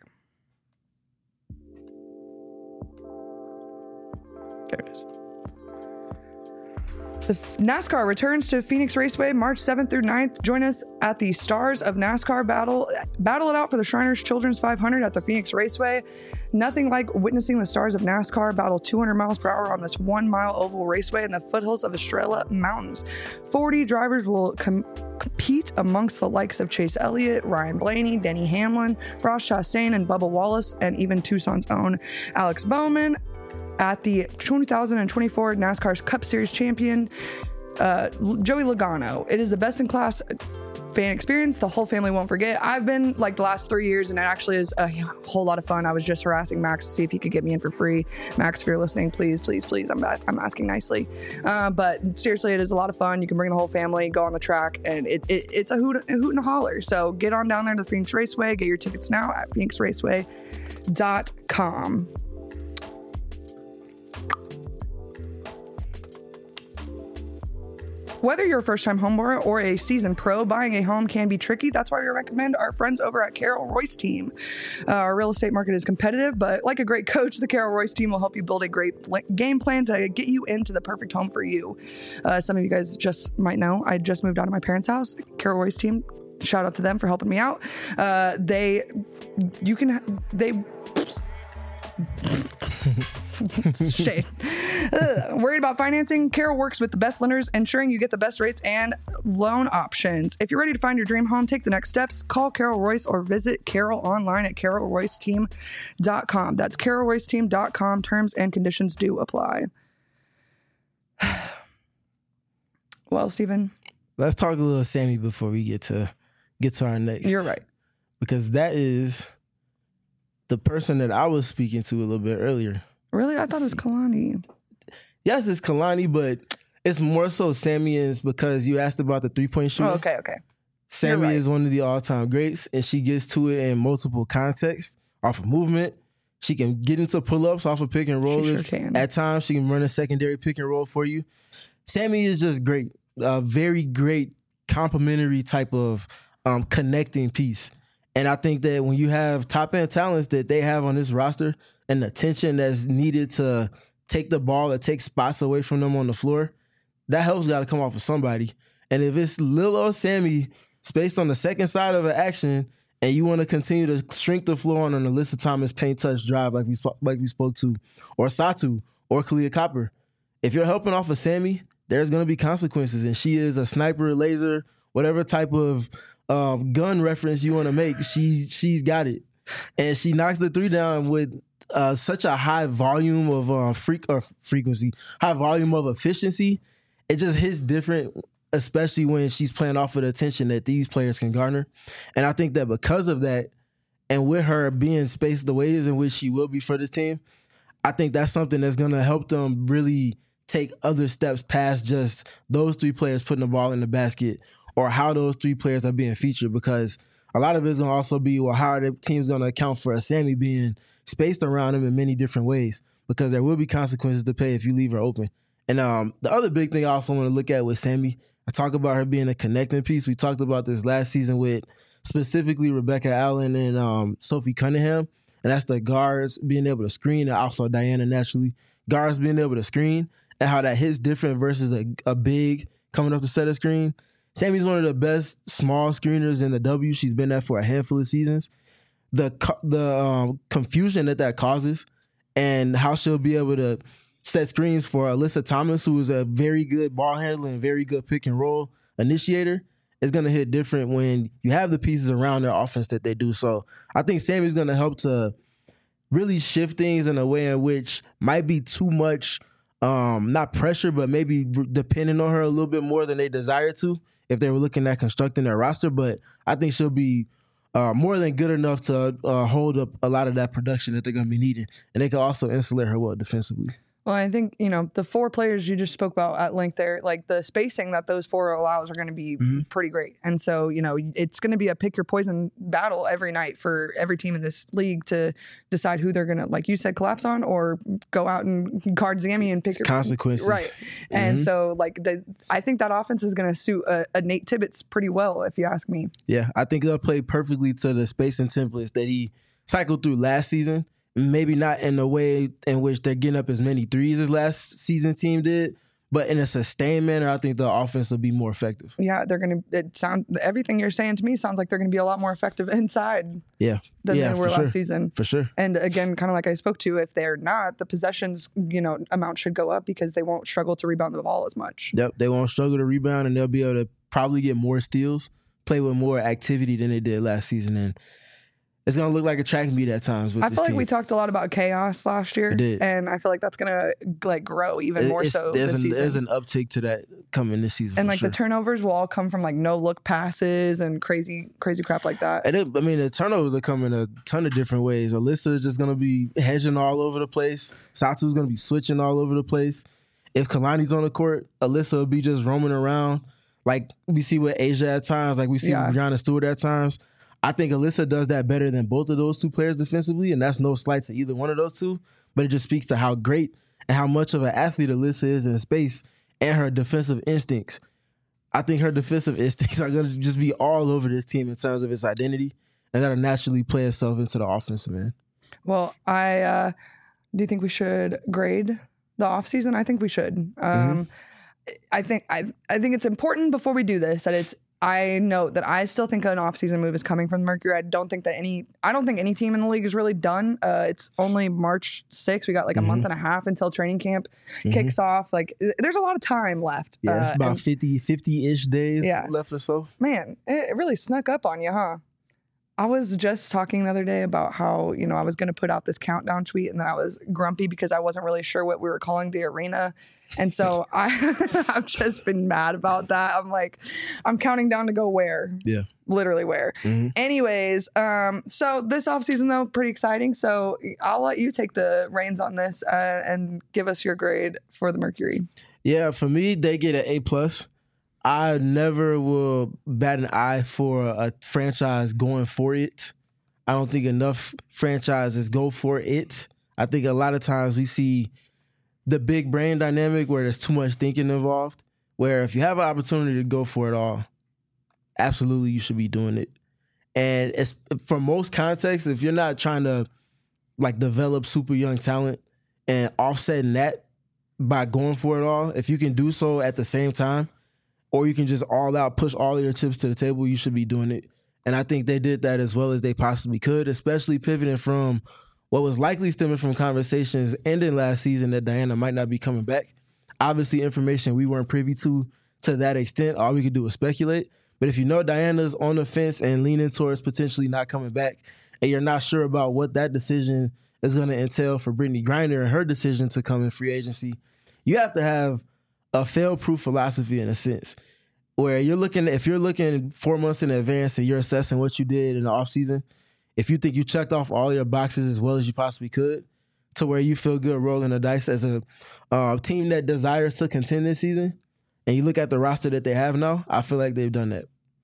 There it is. The NASCAR returns to Phoenix Raceway March seventh through ninth. Join us at the Stars of NASCAR battle. Battle it out for the Shriners Children's five hundred at the Phoenix Raceway. Nothing like witnessing the Stars of NASCAR battle two hundred miles per hour on this one-mile oval raceway in the foothills of Estrella Mountains. forty drivers will com- compete amongst the likes of Chase Elliott, Ryan Blaney, Denny Hamlin, Ross Chastain, and Bubba Wallace, and even Tucson's own Alex Bowman. At the two thousand twenty-four NASCAR's Cup Series champion, uh, Joey Logano. It is the best in class fan experience the whole family won't forget. I've been like the last three years and it actually is a whole lot of fun. I was just harassing Max to see if he could get me in for free. Max, if you're listening, please, please, please, I'm I'm asking nicely. Uh, but seriously, it is a lot of fun. You can bring the whole family, go on the track, and it, it it's a hoot, a hoot and a holler. So get on down there to the Phoenix Raceway. Get your tickets now at phoenix raceway dot com. Whether you're a first-time homebuyer or a seasoned pro, buying a home can be tricky. That's why we recommend our friends over at Carol Royce team. Uh, our real estate market is competitive, but like a great coach, the Carol Royce team will help you build a great pl- game plan to get you into the perfect home for you. Uh, some of you guys just might know, I just moved out of my parents' house. Carol Royce team, shout out to them for helping me out. Uh, they, you can, they... Shade. Ugh. Worried about financing? Carol works with the best lenders, ensuring you get the best rates and loan options. If you're ready to find your dream home, take the next steps. Call Carol Royce or visit Carol online at carol royce team dot com. That's carol royce team dot com. Terms and conditions do apply. Well, Stephen, let's talk a little Sammy before we get to get to our next. You're right. Because that is the person that I was speaking to a little bit earlier. Really? I thought it was Kalani. Yes, it's Kalani, but it's more so Sammy is because you asked about the three-point shooting. Oh, okay, okay. Sammy right. is one of the all-time greats, and she gets to it in multiple contexts, off of movement. She can get into pull-ups off of pick and roll. She sure if- can. At times, she can run a secondary pick and roll for you. Sammy is just great. A very great complementary type of um, connecting piece. And I think that when you have top-end talents that they have on this roster and the attention that's needed to take the ball or take spots away from them on the floor, that help's got to come off of somebody. And if it's Lil or Sammy spaced on the second side of an action and you want to continue to shrink the floor on an Alyssa Thomas paint touch drive like we, sp- like we spoke to, or Satu, or Kalia Copper, if you're helping off of Sammy, there's going to be consequences. And she is a sniper, laser, whatever type of uh, gun reference you want to make, she, she's got it. And she knocks the three down with uh, such a high volume of uh, freak or frequency, high volume of efficiency. It just hits different, especially when she's playing off of the attention that these players can garner. And I think that because of that, and with her being spaced the ways in which she will be for this team, I think that's something that's going to help them really take other steps past just those three players putting the ball in the basket or how those three players are being featured, because a lot of it's going to also be, well, how are the team's going to account for a Sammy being spaced around him in many different ways, because there will be consequences to pay if you leave her open. And um, the other big thing I also want to look at with Sammy, I talk about her being a connecting piece. We talked about this last season with specifically Rebecca Allen and um, Sophie Cunningham, and that's the guards being able to screen, and also Diana naturally, guards being able to screen, and how that hits different versus a, a big coming up to set a screen. Sammy's one of the best small screeners in the W. She's been there for a handful of seasons. The the um, confusion that that causes and how she'll be able to set screens for Alyssa Thomas, who is a very good ball handler and very good pick and roll initiator, is going to hit different when you have the pieces around their offense that they do. So I think Sammy's going to help to really shift things in a way in which might be too much, um, not pressure, but maybe depending on her a little bit more than they desire to if they were looking at constructing their roster. But I think she'll be uh, more than good enough to uh, hold up a lot of that production that they're going to be needing. And they can also insulate her well defensively. Well, I think, you know, the four players you just spoke about at length there, like the spacing that those four allows are going to be Mm-hmm. pretty great. And so, you know, it's going to be a pick your poison battle every night for every team in this league to decide who they're going to, like you said, collapse on or go out and guard Zammy and pick It's your consequences. Right. And so, like, the, I think that offense is going to suit a, a Nate Tibbetts pretty well, if you ask me. Yeah, I think they'll play perfectly to the spacing templates that he cycled through last season. Maybe not in the way in which they're getting up as many threes as last season's team did, but in a sustained manner, I think the offense will be more effective. Yeah, they're going to, it sound, everything you're saying to me sounds like they're going to be a lot more effective inside Yeah. than yeah, they were for last sure. season. For sure. And again, kind of like I spoke to, if they're not, the possessions, you know, amount should go up because they won't struggle to rebound the ball as much. Yep. They won't struggle to rebound, and they'll be able to probably get more steals, play with more activity than they did last season. And it's going to look like a track meet at times with I this feel like team. we talked a lot about chaos last year, We did. and I feel like that's going to like grow even It- more it's- so there's this an, season. There's an uptick to that coming this season. and for like sure. the turnovers will all come from like no look passes and crazy, crazy crap like that. And it, I mean, the turnovers are coming a ton of different ways. Alyssa is just going to be hedging all over the place. Satu's going to be switching all over the place. If Kalani's on the court, Alyssa will be just roaming around like we see with Asia at times, like we see Yeah. with Brianna Stewart at times. I think Alyssa does that better than both of those two players defensively, and that's no slight to either one of those two, but it just speaks to how great and how much of an athlete Alyssa is in space and her defensive instincts. I think her defensive instincts are going to just be all over this team in terms of its identity, and that'll naturally play itself into the offensive end. Well, I uh, do you think we should grade the offseason? I think we should. Um, I think I I think it's important before we do this that it's I note that I still think an offseason move is coming from the Mercury. I don't think that any I don't think any team in the league is really done. Uh, it's only March sixth. We got like a Mhm. month and a half until training camp Mhm. kicks off. Like there's a lot of time left. Yeah, Uh, it's about and fifty, fifty-ish days Yeah. left or so. man, it, it really snuck up on you, huh? I was just talking the other day about how, you know, I was going to put out this countdown tweet and then I was grumpy because I wasn't really sure what we were calling the arena. And so I, I've just been mad about that. I'm like, I'm counting down to go where? Yeah. Literally where. Mm-hmm. Anyways, um, so this offseason, though, pretty exciting. So I'll let you take the reins on this uh, and give us your grade for the Mercury. Yeah, for me, they get an A plus. I never will bat an eye for a franchise going for it. I don't think enough franchises go for it. I think a lot of times we see the big brain dynamic where there's too much thinking involved, where if you have an opportunity to go for it all, absolutely you should be doing it. And it's, for most contexts, if you're not trying to like develop super young talent and offsetting that by going for it all, if you can do so at the same time, or you can just all out push all of your chips to the table, you should be doing it. And I think they did that as well as they possibly could, especially pivoting from what was likely stemming from conversations ending last season that Diana might not be coming back. Obviously, information we weren't privy to to that extent. All we could do was speculate. But if you know Diana's on the fence and leaning towards potentially not coming back, and you're not sure about what that decision is going to entail for Brittany Griner and her decision to come in free agency, you have to have a fail-proof philosophy in a sense, where you're looking, if you're looking four months in advance and you're assessing what you did in the offseason, if you think you checked off all your boxes as well as you possibly could, to where you feel good rolling the dice as a uh, team that desires to contend this season, and you look at the roster that they have now, I feel like they've done that.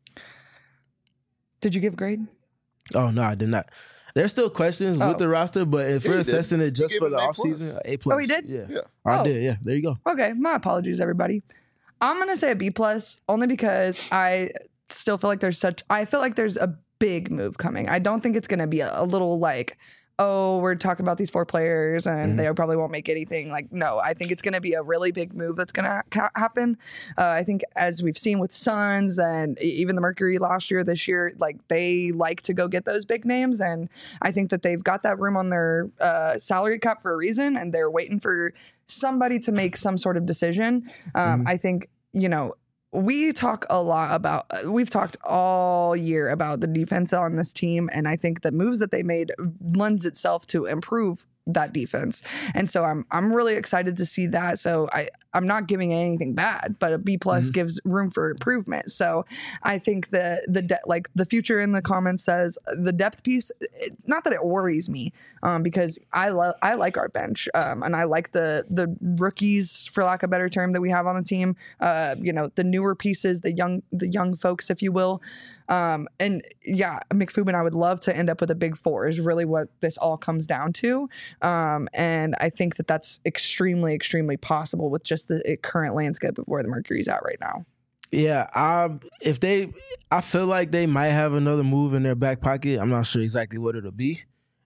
Did you give a grade? Oh, no, I did not. There's still questions Oh. with the roster, but if Yeah, we're he did. assessing it just He for gave the him A offseason, plus. A plus. Oh, he did? Yeah. Yeah. I Oh. did, yeah. There you go. Okay, my apologies, everybody. I'm gonna say a B plus only because I still feel like there's such. I feel like there's a big move coming. I don't think it's gonna be a, a little like, oh, we're talking about these four players and Mhm. they probably won't make anything. Like, no, I think it's gonna be a really big move that's gonna ha- happen. Uh, I think as we've seen with Suns and e- even the Mercury last year, this year, like they like to go get those big names, and I think that they've got that room on their uh, salary cap for a reason, and they're waiting for somebody to make some sort of decision. Um, Mhm. I think, you know, we talk a lot about, we've talked all year about the defense on this team. And I think the moves that they made lends itself to improve that defense. And so I'm, I'm really excited to see that. So I, I'm not giving anything bad, but a B plus Mhm. gives room for improvement. So I think the, the, de- like the future in the comments says the depth piece, it, not that it worries me, um, because I love, I like our bench. Um, and I like the, the rookies, for lack of a better term, that we have on the team. Uh, you know, the newer pieces, the young, the young folks, if you will. Um, and yeah, McFubin, I would love to end up with a big four is really what this all comes down to. Um, and I think that that's extremely, extremely possible with just the current landscape of where the Mercury's at right now. Yeah, I if they, I feel like they might have another move in their back pocket. I'm not sure exactly what it'll be,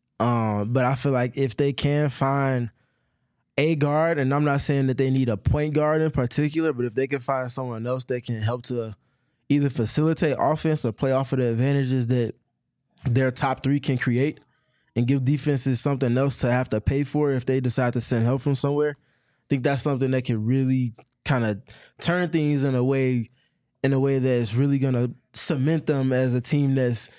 um, but I feel like if they can find a guard, and I'm not saying that they need a point guard in particular, but if they can find someone else that can help to either facilitate offense or play off of the advantages that their top three can create, and give defenses something else to have to pay for if they decide to send help from somewhere, I think that's something that can really kind of turn things in a way in a way that's really going to cement them as a team that's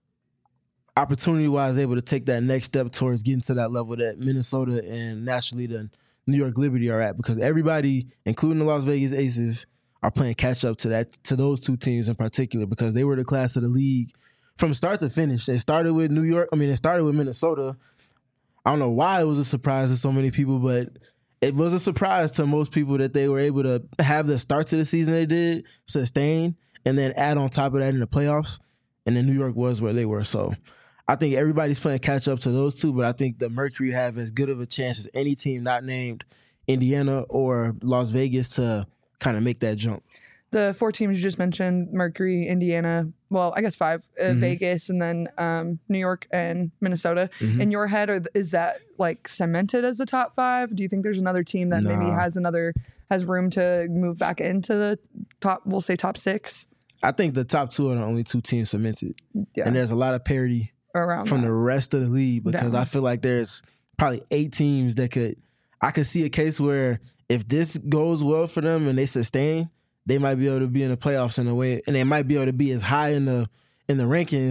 opportunity-wise able to take that next step towards getting to that level that Minnesota and naturally the New York Liberty are at, because everybody, including the Las Vegas Aces, are playing catch-up to that to those two teams in particular, because they were the class of the league from start to finish. They started with New York. I mean, it started with Minnesota. I don't know why it was a surprise to so many people, but it was a surprise to most people that they were able to have the start to the season they did, sustain, and then add on top of that in the playoffs. And then New York was where they were. So I think everybody's playing catch up to those two, but I think the Mercury have as good of a chance as any team not named Indiana or Las Vegas to kind of make that jump. The four teams you just mentioned, Mercury, Indiana, well, I guess five, uh, Mhm. Vegas, and then um, New York and Minnesota. Mhm. In your head, or is that like cemented as the top five? Do you think there's another team that maybe Nah. has another, has room to move back into the top, we'll say top six? I think the top two are the only two teams cemented. Yeah, And there's a lot of parity around from that. the rest of the league, because Down. I feel like there's probably eight teams that could, I could see a case where if this goes well for them and they sustain, they might be able to be in the playoffs in a way, and they might be able to be as high in the in the rankings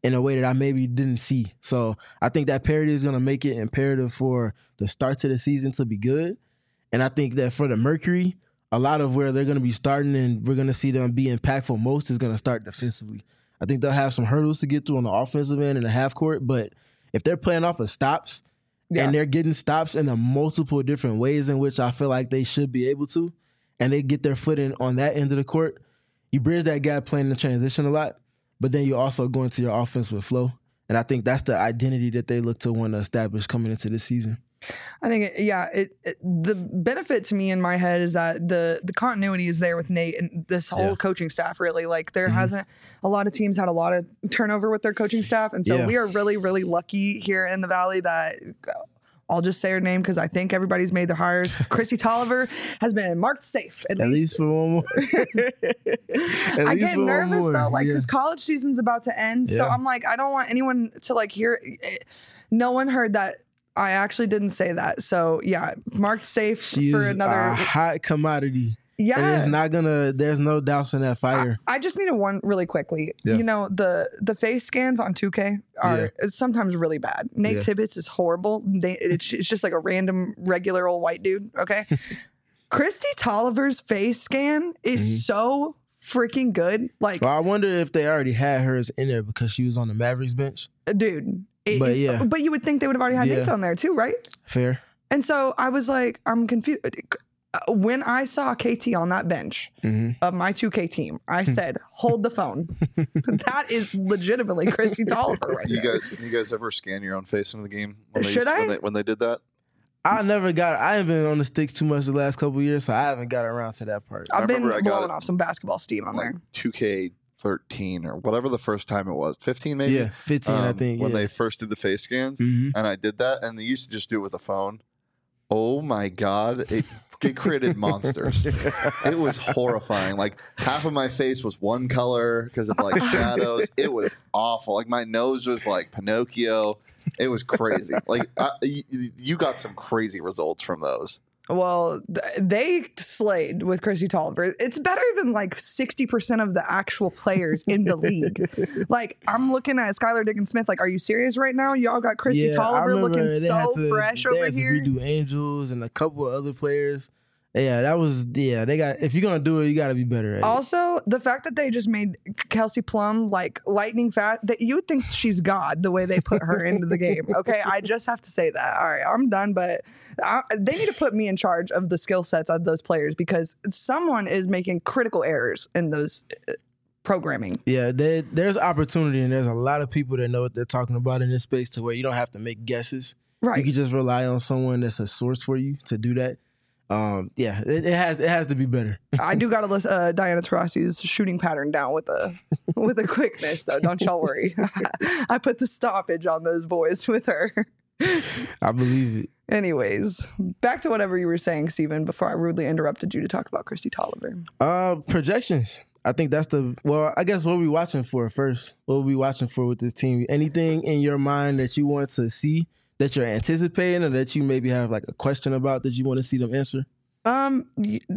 in a way that I maybe didn't see. So I think that parity is going to make it imperative for the start to the season to be good. And I think that for the Mercury, a lot of where they're going to be starting and we're going to see them be impactful most is going to start defensively. I think they'll have some hurdles to get through on the offensive end in the half court, but if they're playing off of stops yeah. and they're getting stops in the multiple different ways in which I feel like they should be able to, and they get their foot in on that end of the court, you bridge that gap playing the transition a lot, but then you also go into your offense with flow. And I think that's the identity that they look to want to establish coming into this season. I think, it, yeah, it, it, the benefit to me in my head is that the the continuity is there with Nate and this whole yeah. coaching staff, really. Like, there mm-hmm. hasn't, a lot of teams had a lot of turnover with their coaching staff. And so yeah. we are really, really lucky here in the Valley that, I'll just say her name because I think everybody's made their hires. Chrissy Tolliver has been marked safe. At, at least. least for one more. I get nervous, though, like, because yeah. college season's about to end. Yeah. So I'm like, I don't want anyone to, like, hear, no one heard that. I actually didn't say that. So yeah, marked safe She's for another a hot commodity. Yeah. And it's not gonna, there's no doubts in that fire. I, I just need a one really quickly. Yeah. You know, the the face scans on two K are yeah. sometimes really bad. Nate yeah. Tibbetts is horrible. They, it's, it's just like a random regular old white dude. Okay. Christy Tolliver's face scan is mm-hmm. so freaking good. Like, well, I wonder if they already had hers in there because she was on the Mavericks bench. Dude. It, but yeah, but you would think they would have already had yeah. Nate's on there too, right? Fair. And so I was like, I'm confused. When I saw K T on that bench mm-hmm. of my two K team, I said, "Hold the phone." That is legitimately Christy Tolliver right you there. Guys, you guys ever scan your own face in the game? When Should they, I? When they, when they did that? I never got. I haven't been on the sticks too much the last couple of years, so I haven't got around to that part. I've been blowing off some basketball steam on like there. two K thirteen or whatever the first time it was, fifteen maybe. Yeah, fifteen. Um, I think when yeah. they first did the face scans, mm-hmm. and I did that, and they used to just do it with a phone. Oh my god, it, it created monsters. It was horrifying. Like, half of my face was one color because of like shadows. It was awful. Like, my nose was like Pinocchio. It was crazy. Like, I, you, you got some crazy results from those. Well, th- they slayed with Chrissy Tolliver. It's better than like sixty percent of the actual players in the league. Like, I'm looking at Skylar Diggins Smith. Like, are you serious right now? Y'all got Chrissy yeah, Tolliver looking so to, fresh over they here. They had to redo Angels and a couple of other players. Yeah, that was, yeah, they got, if you're going to do it, you got to be better at also, it. The fact that they just made Kelsey Plum like lightning fast, that you would think she's God the way they put her into the game. Okay, I just have to say that. All right, I'm done, but I, they need to put me in charge of the skill sets of those players because someone is making critical errors in those uh, programming. Yeah, they, there's opportunity and there's a lot of people that know what they're talking about in this space to where you don't have to make guesses. Right. You can just rely on someone that's a source for you to do that. Um, yeah, it, it has it has to be better. I do gotta list uh, Diana Taurasi's shooting pattern down with a with a quickness though. Don't y'all worry. I put the stoppage on those boys with her. I believe it. Anyways, back to whatever you were saying, Stephen, before I rudely interrupted you to talk about Christy Tolliver. Uh, projections. I think that's the well. I guess what are we watching for first? What are we watching for with this team? Anything in your mind that you want to see? That you're anticipating or that you maybe have like a question about that you want to see them answer? Um,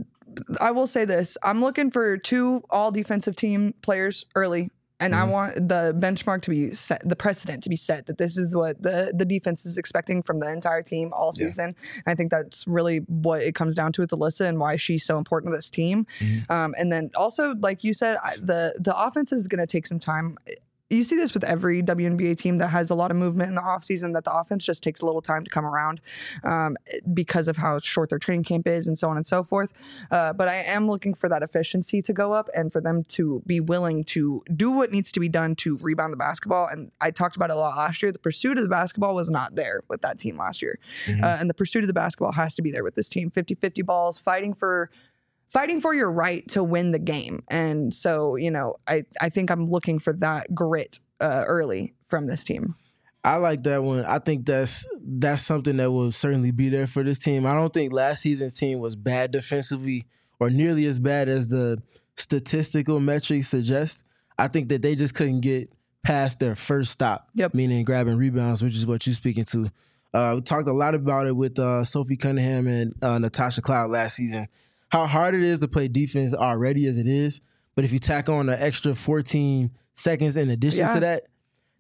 I will say this. I'm looking for two all defensive team players early. And mm-hmm. I want the benchmark to be set, the precedent to be set that this is what the, the defense is expecting from the entire team all season. Yeah. And I think that's really what it comes down to with Alyssa and why she's so important to this team. Mm-hmm. Um, and then also, like you said, I, the, the offense is going to take some time. You see this with every W N B A team that has a lot of movement in the offseason, that the offense just takes a little time to come around um, because of how short their training camp is and so on and so forth. Uh, but I am looking for that efficiency to go up and for them to be willing to do what needs to be done to rebound the basketball. And I talked about it a lot last year. The pursuit of the basketball was not there with that team last year. Mm-hmm. Uh, and the pursuit of the basketball has to be there with this team. fifty-fifty balls, fighting for... Fighting for your right to win the game. And so, you know, I, I think I'm looking for that grit uh, early from this team. I like that one. I think that's that's something that will certainly be there for this team. I don't think last season's team was bad defensively or nearly as bad as the statistical metrics suggest. I think that they just couldn't get past their first stop, yep. meaning grabbing rebounds, which is what you're speaking to. Uh, we talked a lot about it with uh, Sophie Cunningham and uh, Natasha Cloud last season. How hard it is to play defense already as it is, but if you tack on an extra fourteen seconds in addition yeah. to that,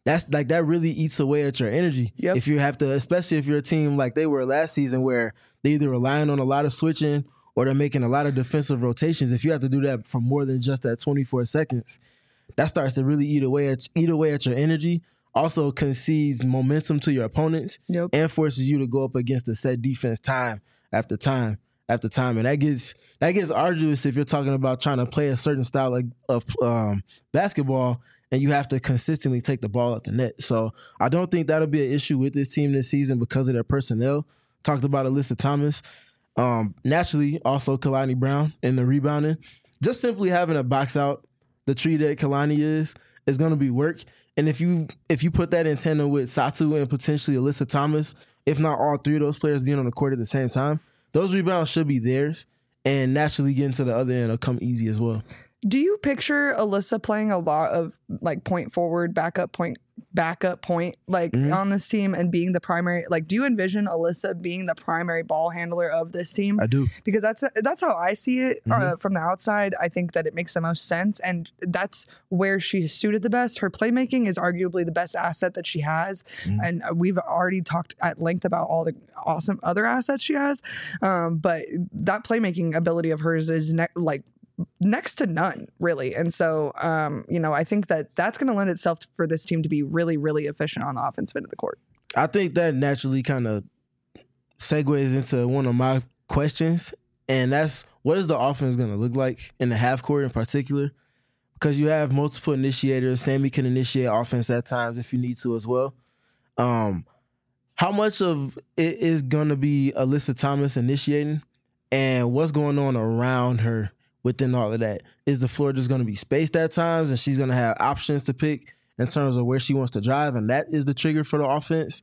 that's like that really eats away at your energy. Yep. If you have to, especially if you're a team like they were last season, where they either relying on a lot of switching or they're making a lot of defensive rotations. If you have to do that for more than just that twenty-four seconds, that starts to really eat away at eat away at your energy. Also concedes momentum to your opponents, yep. and forces you to go up against a set defense time after time after time, and that gets that gets arduous if you're talking about trying to play a certain style of, of um, basketball, and you have to consistently take the ball at the net. So I don't think that'll be an issue with this team this season because of their personnel. Talked about Alyssa Thomas, um, naturally also Kalani Brown in the rebounding. Just simply having a box out the tree that Kalani is is going to be work. And if you if you put that in tandem with Satu and potentially Alyssa Thomas, if not all three of those players being on the court at the same time, those rebounds should be theirs. And naturally getting to the other end will come easy as well. Do you picture Alyssa playing a lot of like point forward, backup point, backup point, like mm-hmm. on this team and being the primary? Like, do you envision Alyssa being the primary ball handler of this team? I do, because that's that's how I see it mm-hmm. uh, from the outside. I think that it makes the most sense, and that's where she's suited the best. Her playmaking is arguably the best asset that she has, mm-hmm. and we've already talked at length about all the awesome other assets she has. Um, but that playmaking ability of hers is ne- like. next to none, really. And so, um, you know, I think that that's going to lend itself for this team to be really, really efficient on the offensive end of the court. I think that naturally kind of segues into one of my questions, and that's what is the offense going to look like in the half court in particular? Because you have multiple initiators. Sammy can initiate offense at times if you need to as well. Um, how much of it is going to be Alyssa Thomas initiating, and what's going on around her within all of that? Is the floor just going to be spaced at times and she's going to have options to pick in terms of where she wants to drive, and that is the trigger for the offense?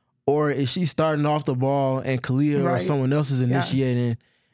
Or is she starting off the ball and Kalia right. or someone else is initiating, yeah.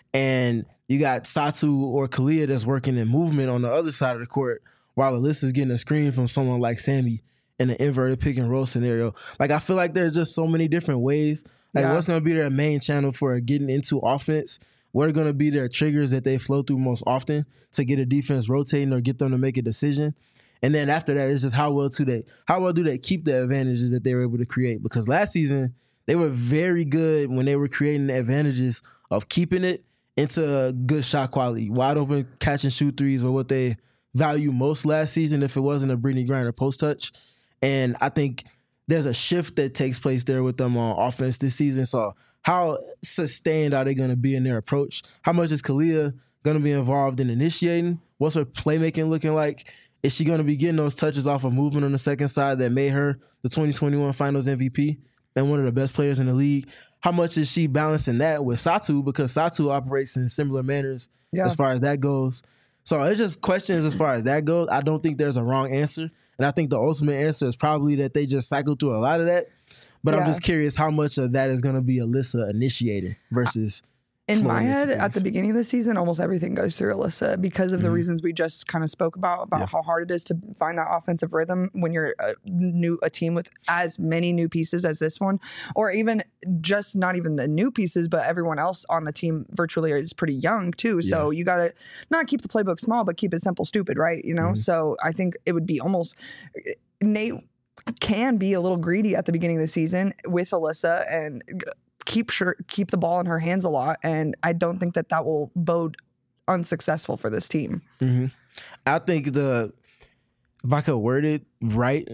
and you got Satu or Kalia that's working in movement on the other side of the court while Alyssa's getting a screen from someone like Sammy in an inverted pick and roll scenario? Like, I feel like there's just so many different ways. Like, yeah. what's going to be their main channel for getting into offense? What are going to be their triggers that they flow through most often to get a defense rotating or get them to make a decision? And then after that, it's just how well do they how well do they keep the advantages that they were able to create? Because last season, they were very good when they were creating the advantages of keeping it into good shot quality. Wide open catch and shoot threes were what they value most last season if it wasn't a Brittany Griner post touch. And I think there's a shift that takes place there with them on offense this season. So how sustained are they going to be in their approach? How much is Kalia going to be involved in initiating? What's her playmaking looking like? Is she going to be getting those touches off of movement on the second side that made her the twenty twenty-one Finals M V P and one of the best players in the league? How much is she balancing that with Satu? Because Satu operates in similar manners yeah. as far as that goes. So it's just questions as far as that goes. I don't think there's a wrong answer. And I think the ultimate answer is probably that they just cycle through a lot of that. But yeah. I'm just curious how much of that is going to be Alyssa initiating versus... In my head, at the beginning of the season, almost everything goes through Alyssa because of mm-hmm. the reasons we just kind of spoke about, about yeah. how hard it is to find that offensive rhythm when you're a new a team with as many new pieces as this one, or even just not even the new pieces, but everyone else on the team virtually is pretty young too. So yeah. you got to not keep the playbook small, but keep it simple, stupid, right? You know. Mm-hmm. So I think it would be almost Nate can be a little greedy at the beginning of the season with Alyssa and keep sure keep the ball in her hands a lot, and I don't think that that will bode unsuccessful for this team. Mm-hmm. I think the if I could word it right,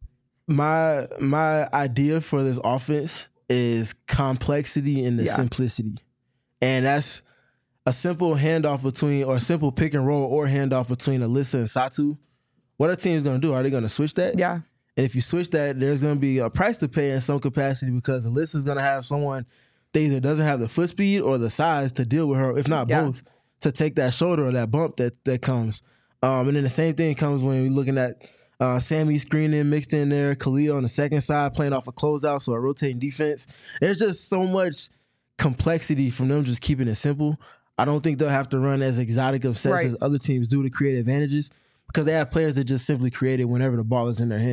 my my idea for this offense is complexity and the yeah. simplicity, and that's a simple handoff between or a simple pick and roll or handoff between Alyssa and Satu. What our team is going to do? Are they going to switch that? Yeah. And if you switch that, there's going to be a price to pay in some capacity because Alyssa's going to have someone that either doesn't have the foot speed or the size to deal with her, if not yeah. both, to take that shoulder or that bump that that comes. Um, and then the same thing comes when you're looking at uh, Sammy screening mixed in there, Kalia on the second side playing off a closeout, so a rotating defense. There's just so much complexity from them just keeping it simple. I don't think they'll have to run as exotic of sets right. as other teams do to create advantages because they have players that just simply create it whenever the ball is in their hands.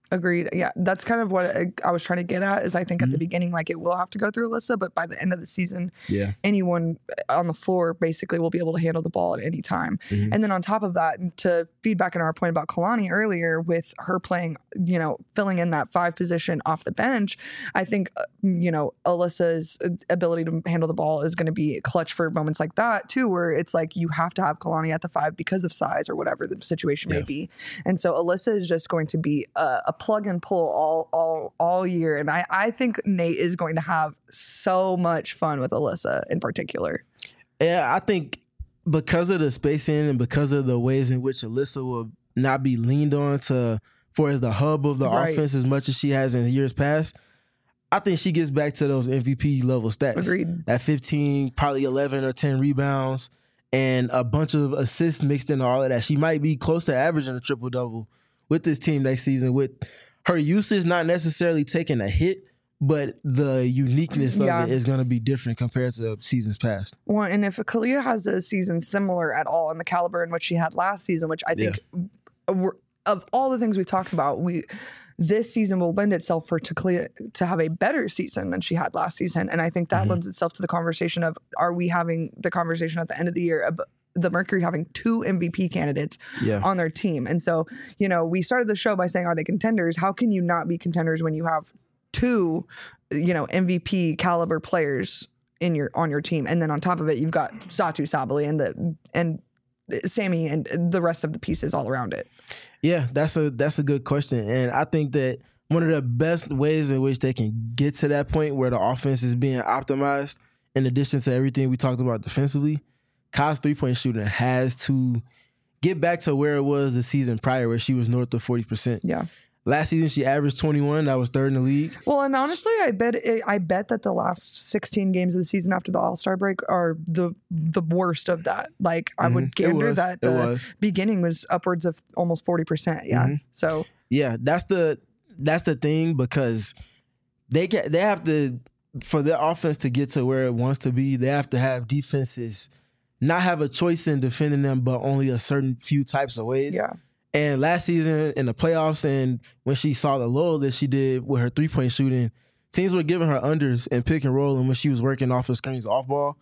Agreed. Yeah, that's kind of what I, I was trying to get at. Is I think Mhm. at the beginning, like it will have to go through Alyssa, but by the end of the season, Yeah. anyone on the floor basically will be able to handle the ball at any time. Mhm. And then on top of that, and to feedback on our point about Kalani earlier, with her playing, you know, filling in that five position off the bench, I think uh, you know Alyssa's ability to handle the ball is going to be clutch for moments like that too, where it's like you have to have Kalani at the five because of size or whatever the situation may Yeah. be. And so Alyssa is just going to be a, a plug and pull all all all year. And I, I think Nate is going to have so much fun with Alyssa in particular. Yeah, I think because of the spacing and because of the ways in which Alyssa will not be leaned on to for as the hub of the Right. offense as much as she has in years past, I think she gets back to those M V P level stats. Agreed. At fifteen, probably eleven or ten rebounds and a bunch of assists mixed into all of that. She might be close to averaging a triple double with this team next season, with her usage not necessarily taking a hit, but the uniqueness of Yeah. it is going to be different compared to seasons past. Well, and if Kalia has a season similar at all in the caliber in which she had last season, which I think we're, of all the things we've talked about, we this season will lend itself for Kalia to have a better season than she had last season. And I think that Mhm. lends itself to the conversation of, are we having the conversation at the end of the year of the Mercury having two M V P candidates Yeah. on their team? And so, you know, we started the show by saying, are they contenders? How can you not be contenders when you have two, you know, M V P caliber players in your on your team? And then on top of it, you've got Satu Sabali and the and Sammy and the rest of the pieces all around it. Yeah, that's a that's a good question. And I think that one of the best ways in which they can get to that point where the offense is being optimized, in addition to everything we talked about defensively, Kyle's three-point shooting has to get back to where it was the season prior, where she was north of forty percent. Yeah. Last season, she averaged twenty-one. That was third in the league. Well, and honestly, I bet I bet that the last sixteen games of the season after the All-Star break are the the worst of that. Like I Mhm. would It gander was. that It the was. beginning was upwards of almost forty percent. Yeah. Mhm. So Yeah, that's the that's the thing, because they get they have to, for their offense to get to where it wants to be, they have to have defenses not have a choice in defending them, but only a certain few types of ways. yeah. And last season in the playoffs, and when she saw the low that she did with her three point shooting, teams were giving her unders and pick and roll, and when she was working off of screens off ball.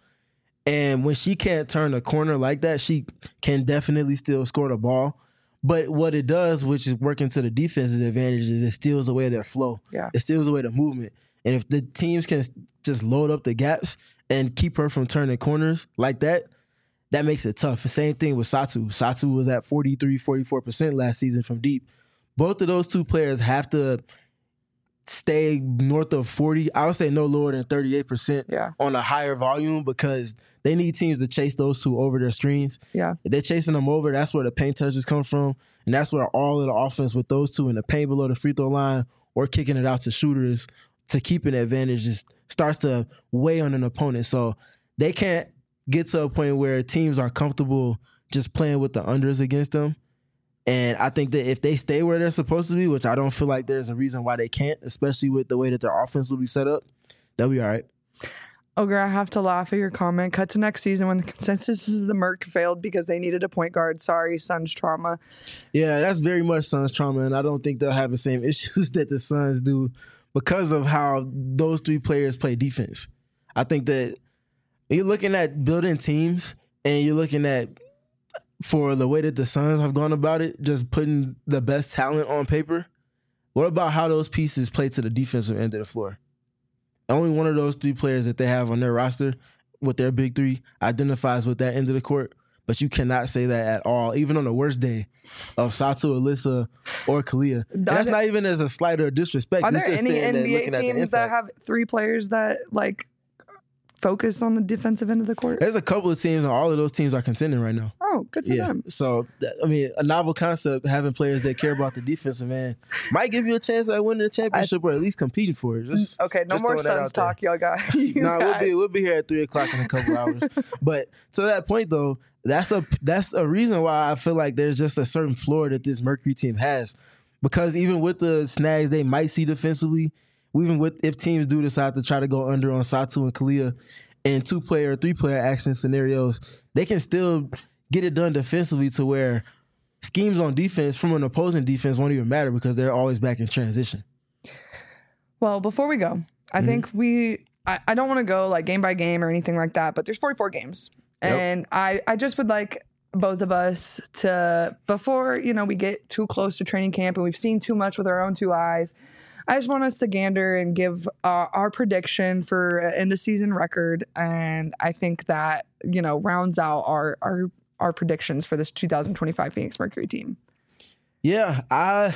And when she can't turn a corner like that, she can definitely still score the ball. But what it does, which is working to the defense's advantage, is it steals away their flow. Yeah. It steals away the movement. And if the teams can just load up the gaps and keep her from turning corners like that, that makes it tough. The same thing with Satu. Satu was at forty-three, forty-four percent last season from deep. Both of those two players have to stay north of forty. I would say no lower than thirty-eight percent Yeah. on a higher volume, because they need teams to chase those two over their screens. Yeah. If they're chasing them over, that's where the paint touches come from. And that's where all of the offense with those two in the paint below the free throw line or kicking it out to shooters to keep an advantage just starts to weigh on an opponent. So they can't get to a point where teams are comfortable just playing with the unders against them. And I think that if they stay where they're supposed to be, which I don't feel like there's a reason why they can't, especially with the way that their offense will be set up, they'll be all right. Ogre, I have to laugh at your comment. Cut to next season when the consensus is the Merc failed because they needed a point guard. Sorry, Suns trauma. Yeah, that's very much Suns trauma, and I don't think they'll have the same issues that the Suns do because of how those three players play defense. I think that you're looking at building teams, and you're looking at, for the way that the Suns have gone about it, just putting the best talent on paper. What about how those pieces play to the defensive end of the floor? Only one of those three players that they have on their roster with their big three identifies with that end of the court, but you cannot say that at all, even on the worst day of Satu, Alyssa, or Kalia. And that's not even as a slight or disrespect. Are It's there just any saying that N B A looking at the teams that impact. have three players that like focus on the defensive end of the court? There's a couple of teams, and all of those teams are contending right now. Oh, good for Yeah. them. So, th- I mean, a novel concept, having players that care about the defensive end, might give you a chance at winning the championship or at least competing for it. Just, Okay, no just more throwing that Suns out there. talk, y'all guys. You No, we'll be guys. we'll be here at three o'clock in a couple hours. But to that point, though, that's a that's a reason why I feel like there's just a certain floor that this Mercury team has, because even with the snags they might see defensively, even with if teams do decide to try to go under on Satu and Kalia in two player, three player action scenarios, they can still get it done defensively to where schemes on defense from an opposing defense won't even matter because they're always back in transition. Well, before we go, I mm-hmm. think we, I, I don't want to go like game by game or anything like that, but there's forty-four games. Yep. And I, I just would like both of us to, before, you know, we get too close to training camp and we've seen too much with our own two eyes, I just want us to gander and give uh, our prediction for an end of season record. And I think that, you know, rounds out our, our, our predictions for this two thousand twenty-five Phoenix Mercury team. Yeah, I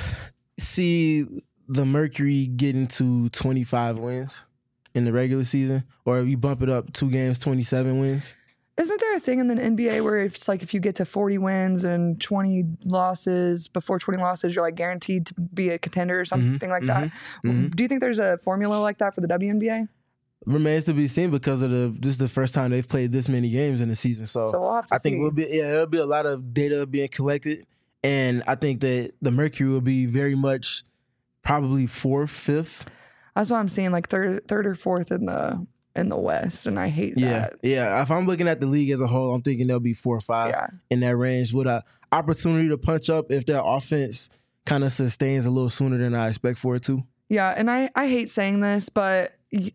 see the Mercury getting to twenty-five wins in the regular season, or if you bump it up two games, twenty-seven wins. Isn't there a thing in the N B A where it's like if you get to forty wins and twenty losses, before twenty losses, you're like guaranteed to be a contender or something mm-hmm, like that? Mm-hmm. Do you think there's a formula like that for the W N B A? Remains to be seen because of the this is the first time they've played this many games in the season. So, so we'll have to I think see. we'll be yeah, there'll be a lot of data being collected, and I think that the Mercury will be very much probably fourth, fifth. That's what I'm seeing, like third, third or fourth in the in the West, and I hate yeah, that. Yeah, if I'm looking at the league as a whole, I'm thinking they'll be four or five yeah. in that range with an opportunity to punch up if their offense kind of sustains a little sooner than I expect for it to. Yeah, and I, I hate saying this, but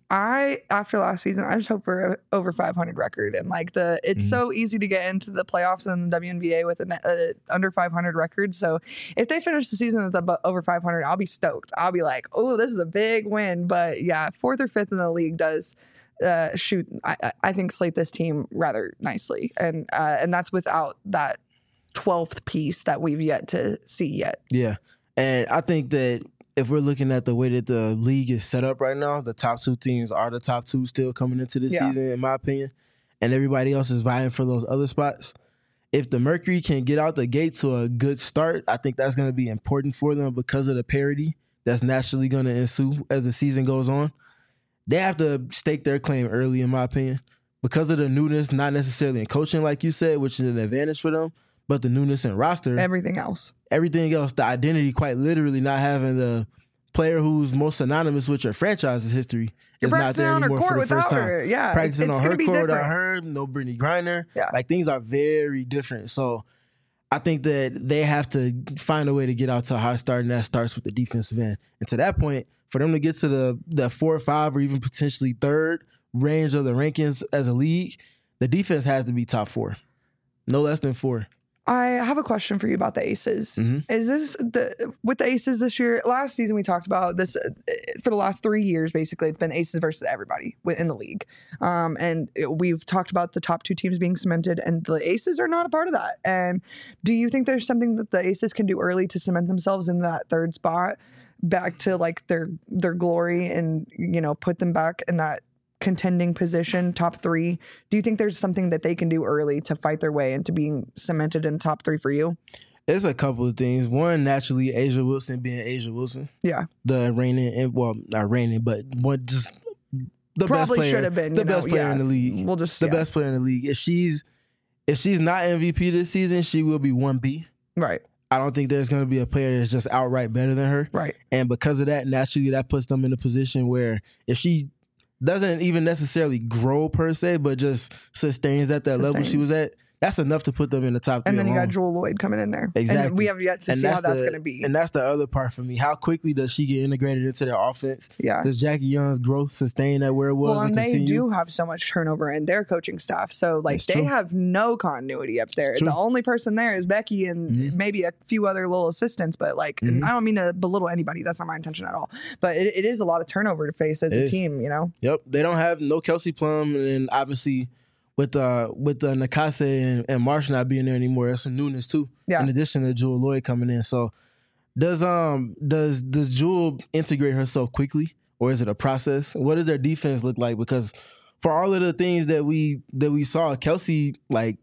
I, after last season, I just hope for a over five hundred record. And like the, it's mm-hmm. so easy to get into the playoffs in the W N B A with an a under five hundred record. So if they finish the season with a, over five hundred, I'll be stoked. I'll be like, oh, this is a big win. But yeah, fourth or fifth in the league does uh, shoot, I, I think, slate this team rather nicely. And, uh, and that's without that twelfth piece that we've yet to see yet. Yeah. And I think that if we're looking at the way that the league is set up right now, the top two teams are the top two still coming into this yeah. season, in my opinion, and everybody else is vying for those other spots. If the Mercury can get out the gate to a good start, I think that's going to be important for them because of the parity that's naturally going to ensue as the season goes on. They have to stake their claim early, in my opinion, because of the newness, not necessarily in coaching, like you said, which is an advantage for them, but the newness in roster. Everything else. Everything else, the identity, quite literally not having the player who's most synonymous with your franchise's history You're is not there anymore for the first time. Her. Yeah, practicing it's, it's on her be court different. without her, no Brittany Griner. Yeah. Like, things are very different. So I think that they have to find a way to get out to a high start, and that starts with the defensive end. And to that point, for them to get to the, the four or five or even potentially third range of the rankings as a league, the defense has to be top four. No less than four. I have a question for you about the Aces. Mm-hmm. Is this the with the Aces this year? Last season we talked about this uh, for the last three years. Basically, it's been Aces versus everybody in the league, um, and it, we've talked about the top two teams being cemented, and the Aces are not a part of that. And do you think there's something that the Aces can do early to cement themselves in that third spot, back to like their their glory, and you know put them back in that contending position, top three? Do you think there's something that they can do early to fight their way into being cemented in top three for you? There's a couple of things. One, naturally, A'ja Wilson being A'ja Wilson. Yeah. The reigning, well, not reigning, but one just the Probably best player. should have been the you know, best player yeah. in the league. We'll just the yeah. best player in the league. If she's if she's not M V P this season, she will be one B. Right. I don't think there's going to be a player that's just outright better than her. Right. And because of that, naturally, that puts them in a position where if she doesn't even necessarily grow per se, but just sustains at that sustains. level she was at, that's enough to put them in the top three. And then you alone. got Jewel Lloyd coming in there. Exactly. And we have yet to and see how that's the, going to be. And that's the other part for me. How quickly does she get integrated into their offense? Yeah. Does Jackie Young's growth sustain at where it was? Well, and, and they continue? do have so much turnover in their coaching staff. So, like, That's they true. have no continuity up there. The only person there is Becky and mm-hmm. maybe a few other little assistants. But, like, mm-hmm. I don't mean to belittle anybody. That's not my intention at all. But it, it is a lot of turnover to face as it a is. team, you know? Yep. They don't have no Kelsey Plum, and obviously with uh with uh, Nakase and, and Marsh not being there anymore, there's some newness too. Yeah. In addition to Jewel Lloyd coming in. So does um does does Jewel integrate herself quickly, or is it a process? What does their defense look like? Because for all of the things that we that we saw, Kelsey like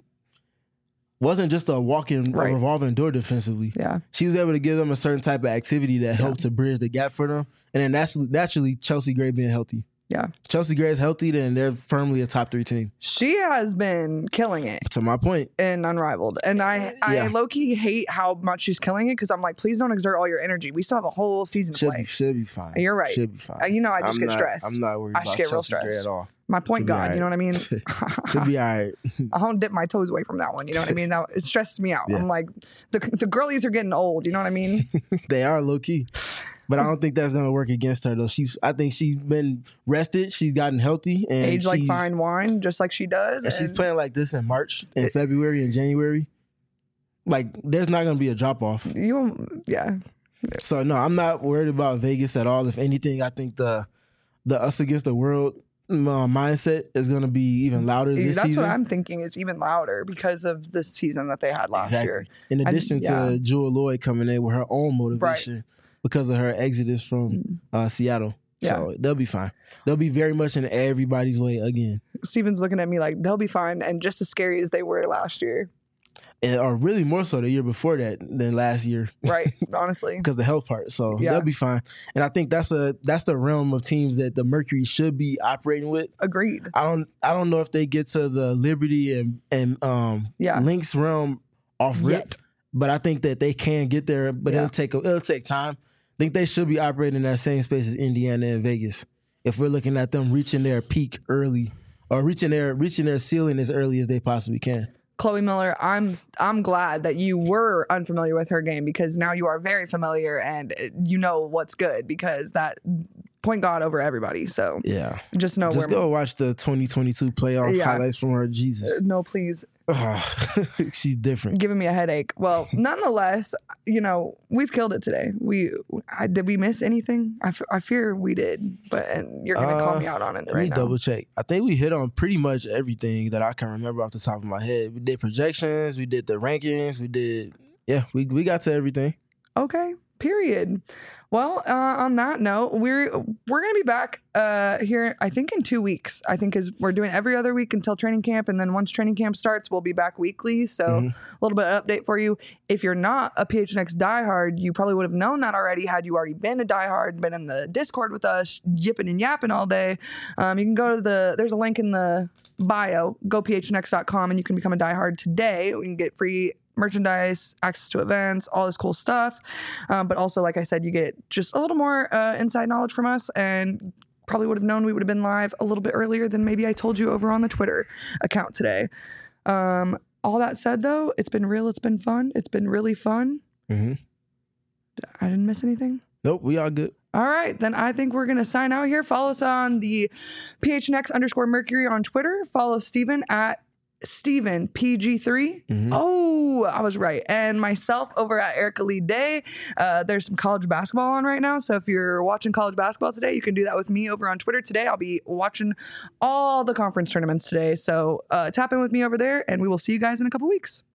wasn't just a walking right. a revolving door defensively. Yeah. She was able to give them a certain type of activity that yeah. helped to bridge the gap for them. And then naturally, naturally Chelsea Gray being healthy. Yeah. Chelsea Gray is healthy, then they're firmly a top three team. She has been killing it. To my point. And unrivaled. And I, I yeah. low-key hate how much she's killing it because I'm like, please don't exert all your energy. We still have a whole season to should play. Be, should be fine. You're right. Should be fine. You're know I just I'm get not, stressed. I'm not worried I about just get Chelsea real Gray stressed. at all. My point Should be guard, all you know what I mean? Should be all right. I don't dip my toes away from that one. You know what I mean? That it stresses me out. Yeah. I'm like, the the girlies are getting old. You know what I mean? They are low key, but I don't think that's gonna work against her though. She's, I think she's been rested. She's gotten healthy and Age like she's- fine wine, just like she does. And she's and- playing like this in March, in It- February, and January. Like, there's not gonna be a drop off. You, yeah. So no, I'm not worried about Vegas at all. If anything, I think the the us against the world uh, mindset is gonna be even louder this That's season. what I'm thinking is even louder because of the season that they had last year. In addition yeah. to Jewel Lloyd coming in with her own motivation because of her exodus from uh, Seattle. Yeah. So they'll be fine. They'll be very much in everybody's way again. Steven's looking at me like they'll be fine and just as scary as they were last year. And, or really more so the year before that than last year. Right. Honestly. Because the health part. So Yeah. they'll be fine. And I think that's a that's the realm of teams that the Mercury should be operating with. Agreed. I don't I don't know if they get to the Liberty and and um Yeah. Lynx realm off rip, Yet. but I think that they can get there. But Yeah. it'll take a, it'll take time. I think they should be operating in that same space as Indiana and Vegas. If we're looking at them reaching their peak early or reaching their reaching their ceiling as early as they possibly can. Chloe Miller, I'm I'm glad that you were unfamiliar with her game because now you are very familiar and you know what's good because that point guard over everybody. So Yeah. just know Just where. go watch the twenty twenty-two playoff Yeah. highlights from her. Jesus. No, please. She's different. Giving me a headache. Well, nonetheless, you know, we've killed it today. We I, did we miss anything? I, f- I fear we did, but and you're gonna call Uh, me out on it Let right me now. double check. I think we hit on pretty much everything that I can remember off the top of my head. We did projections, we did the rankings, we did yeah, we we got to everything. Okay. Period. Well, uh, on that note, we're we're gonna be back uh, here. I think in two weeks. I think is we're doing every other week until training camp, and then once training camp starts, we'll be back weekly. So Mhm. a little bit of update for you. If you're not a P H N X diehard, you probably would have known that already had you already been a diehard, been in the Discord with us, yipping and yapping all day. Um, you can go to the there's a link in the bio. Go P H N X dot com and you can become a diehard today. We can get free merchandise, access to events, all this cool stuff. Um, but also, like I said, you get just a little more uh, inside knowledge from us and probably would have known we would have been live a little bit earlier than maybe I told you over on the Twitter account today. Um, all that said, though, it's been real. It's been fun. It's been really fun. Mm-hmm. I didn't miss anything. Nope, we all good. All right, then I think we're going to sign out here. Follow us on the P H N X underscore Mercury on Twitter. Follow Steven at Steven P G three. Mhm. Oh, I was right. And myself over at Erica Lee Day. Uh, there's some college basketball on right now. So if you're watching college basketball today, you can do that with me over on Twitter today. I'll be watching all the conference tournaments today. So uh, tap in with me over there and we will see you guys in a couple weeks.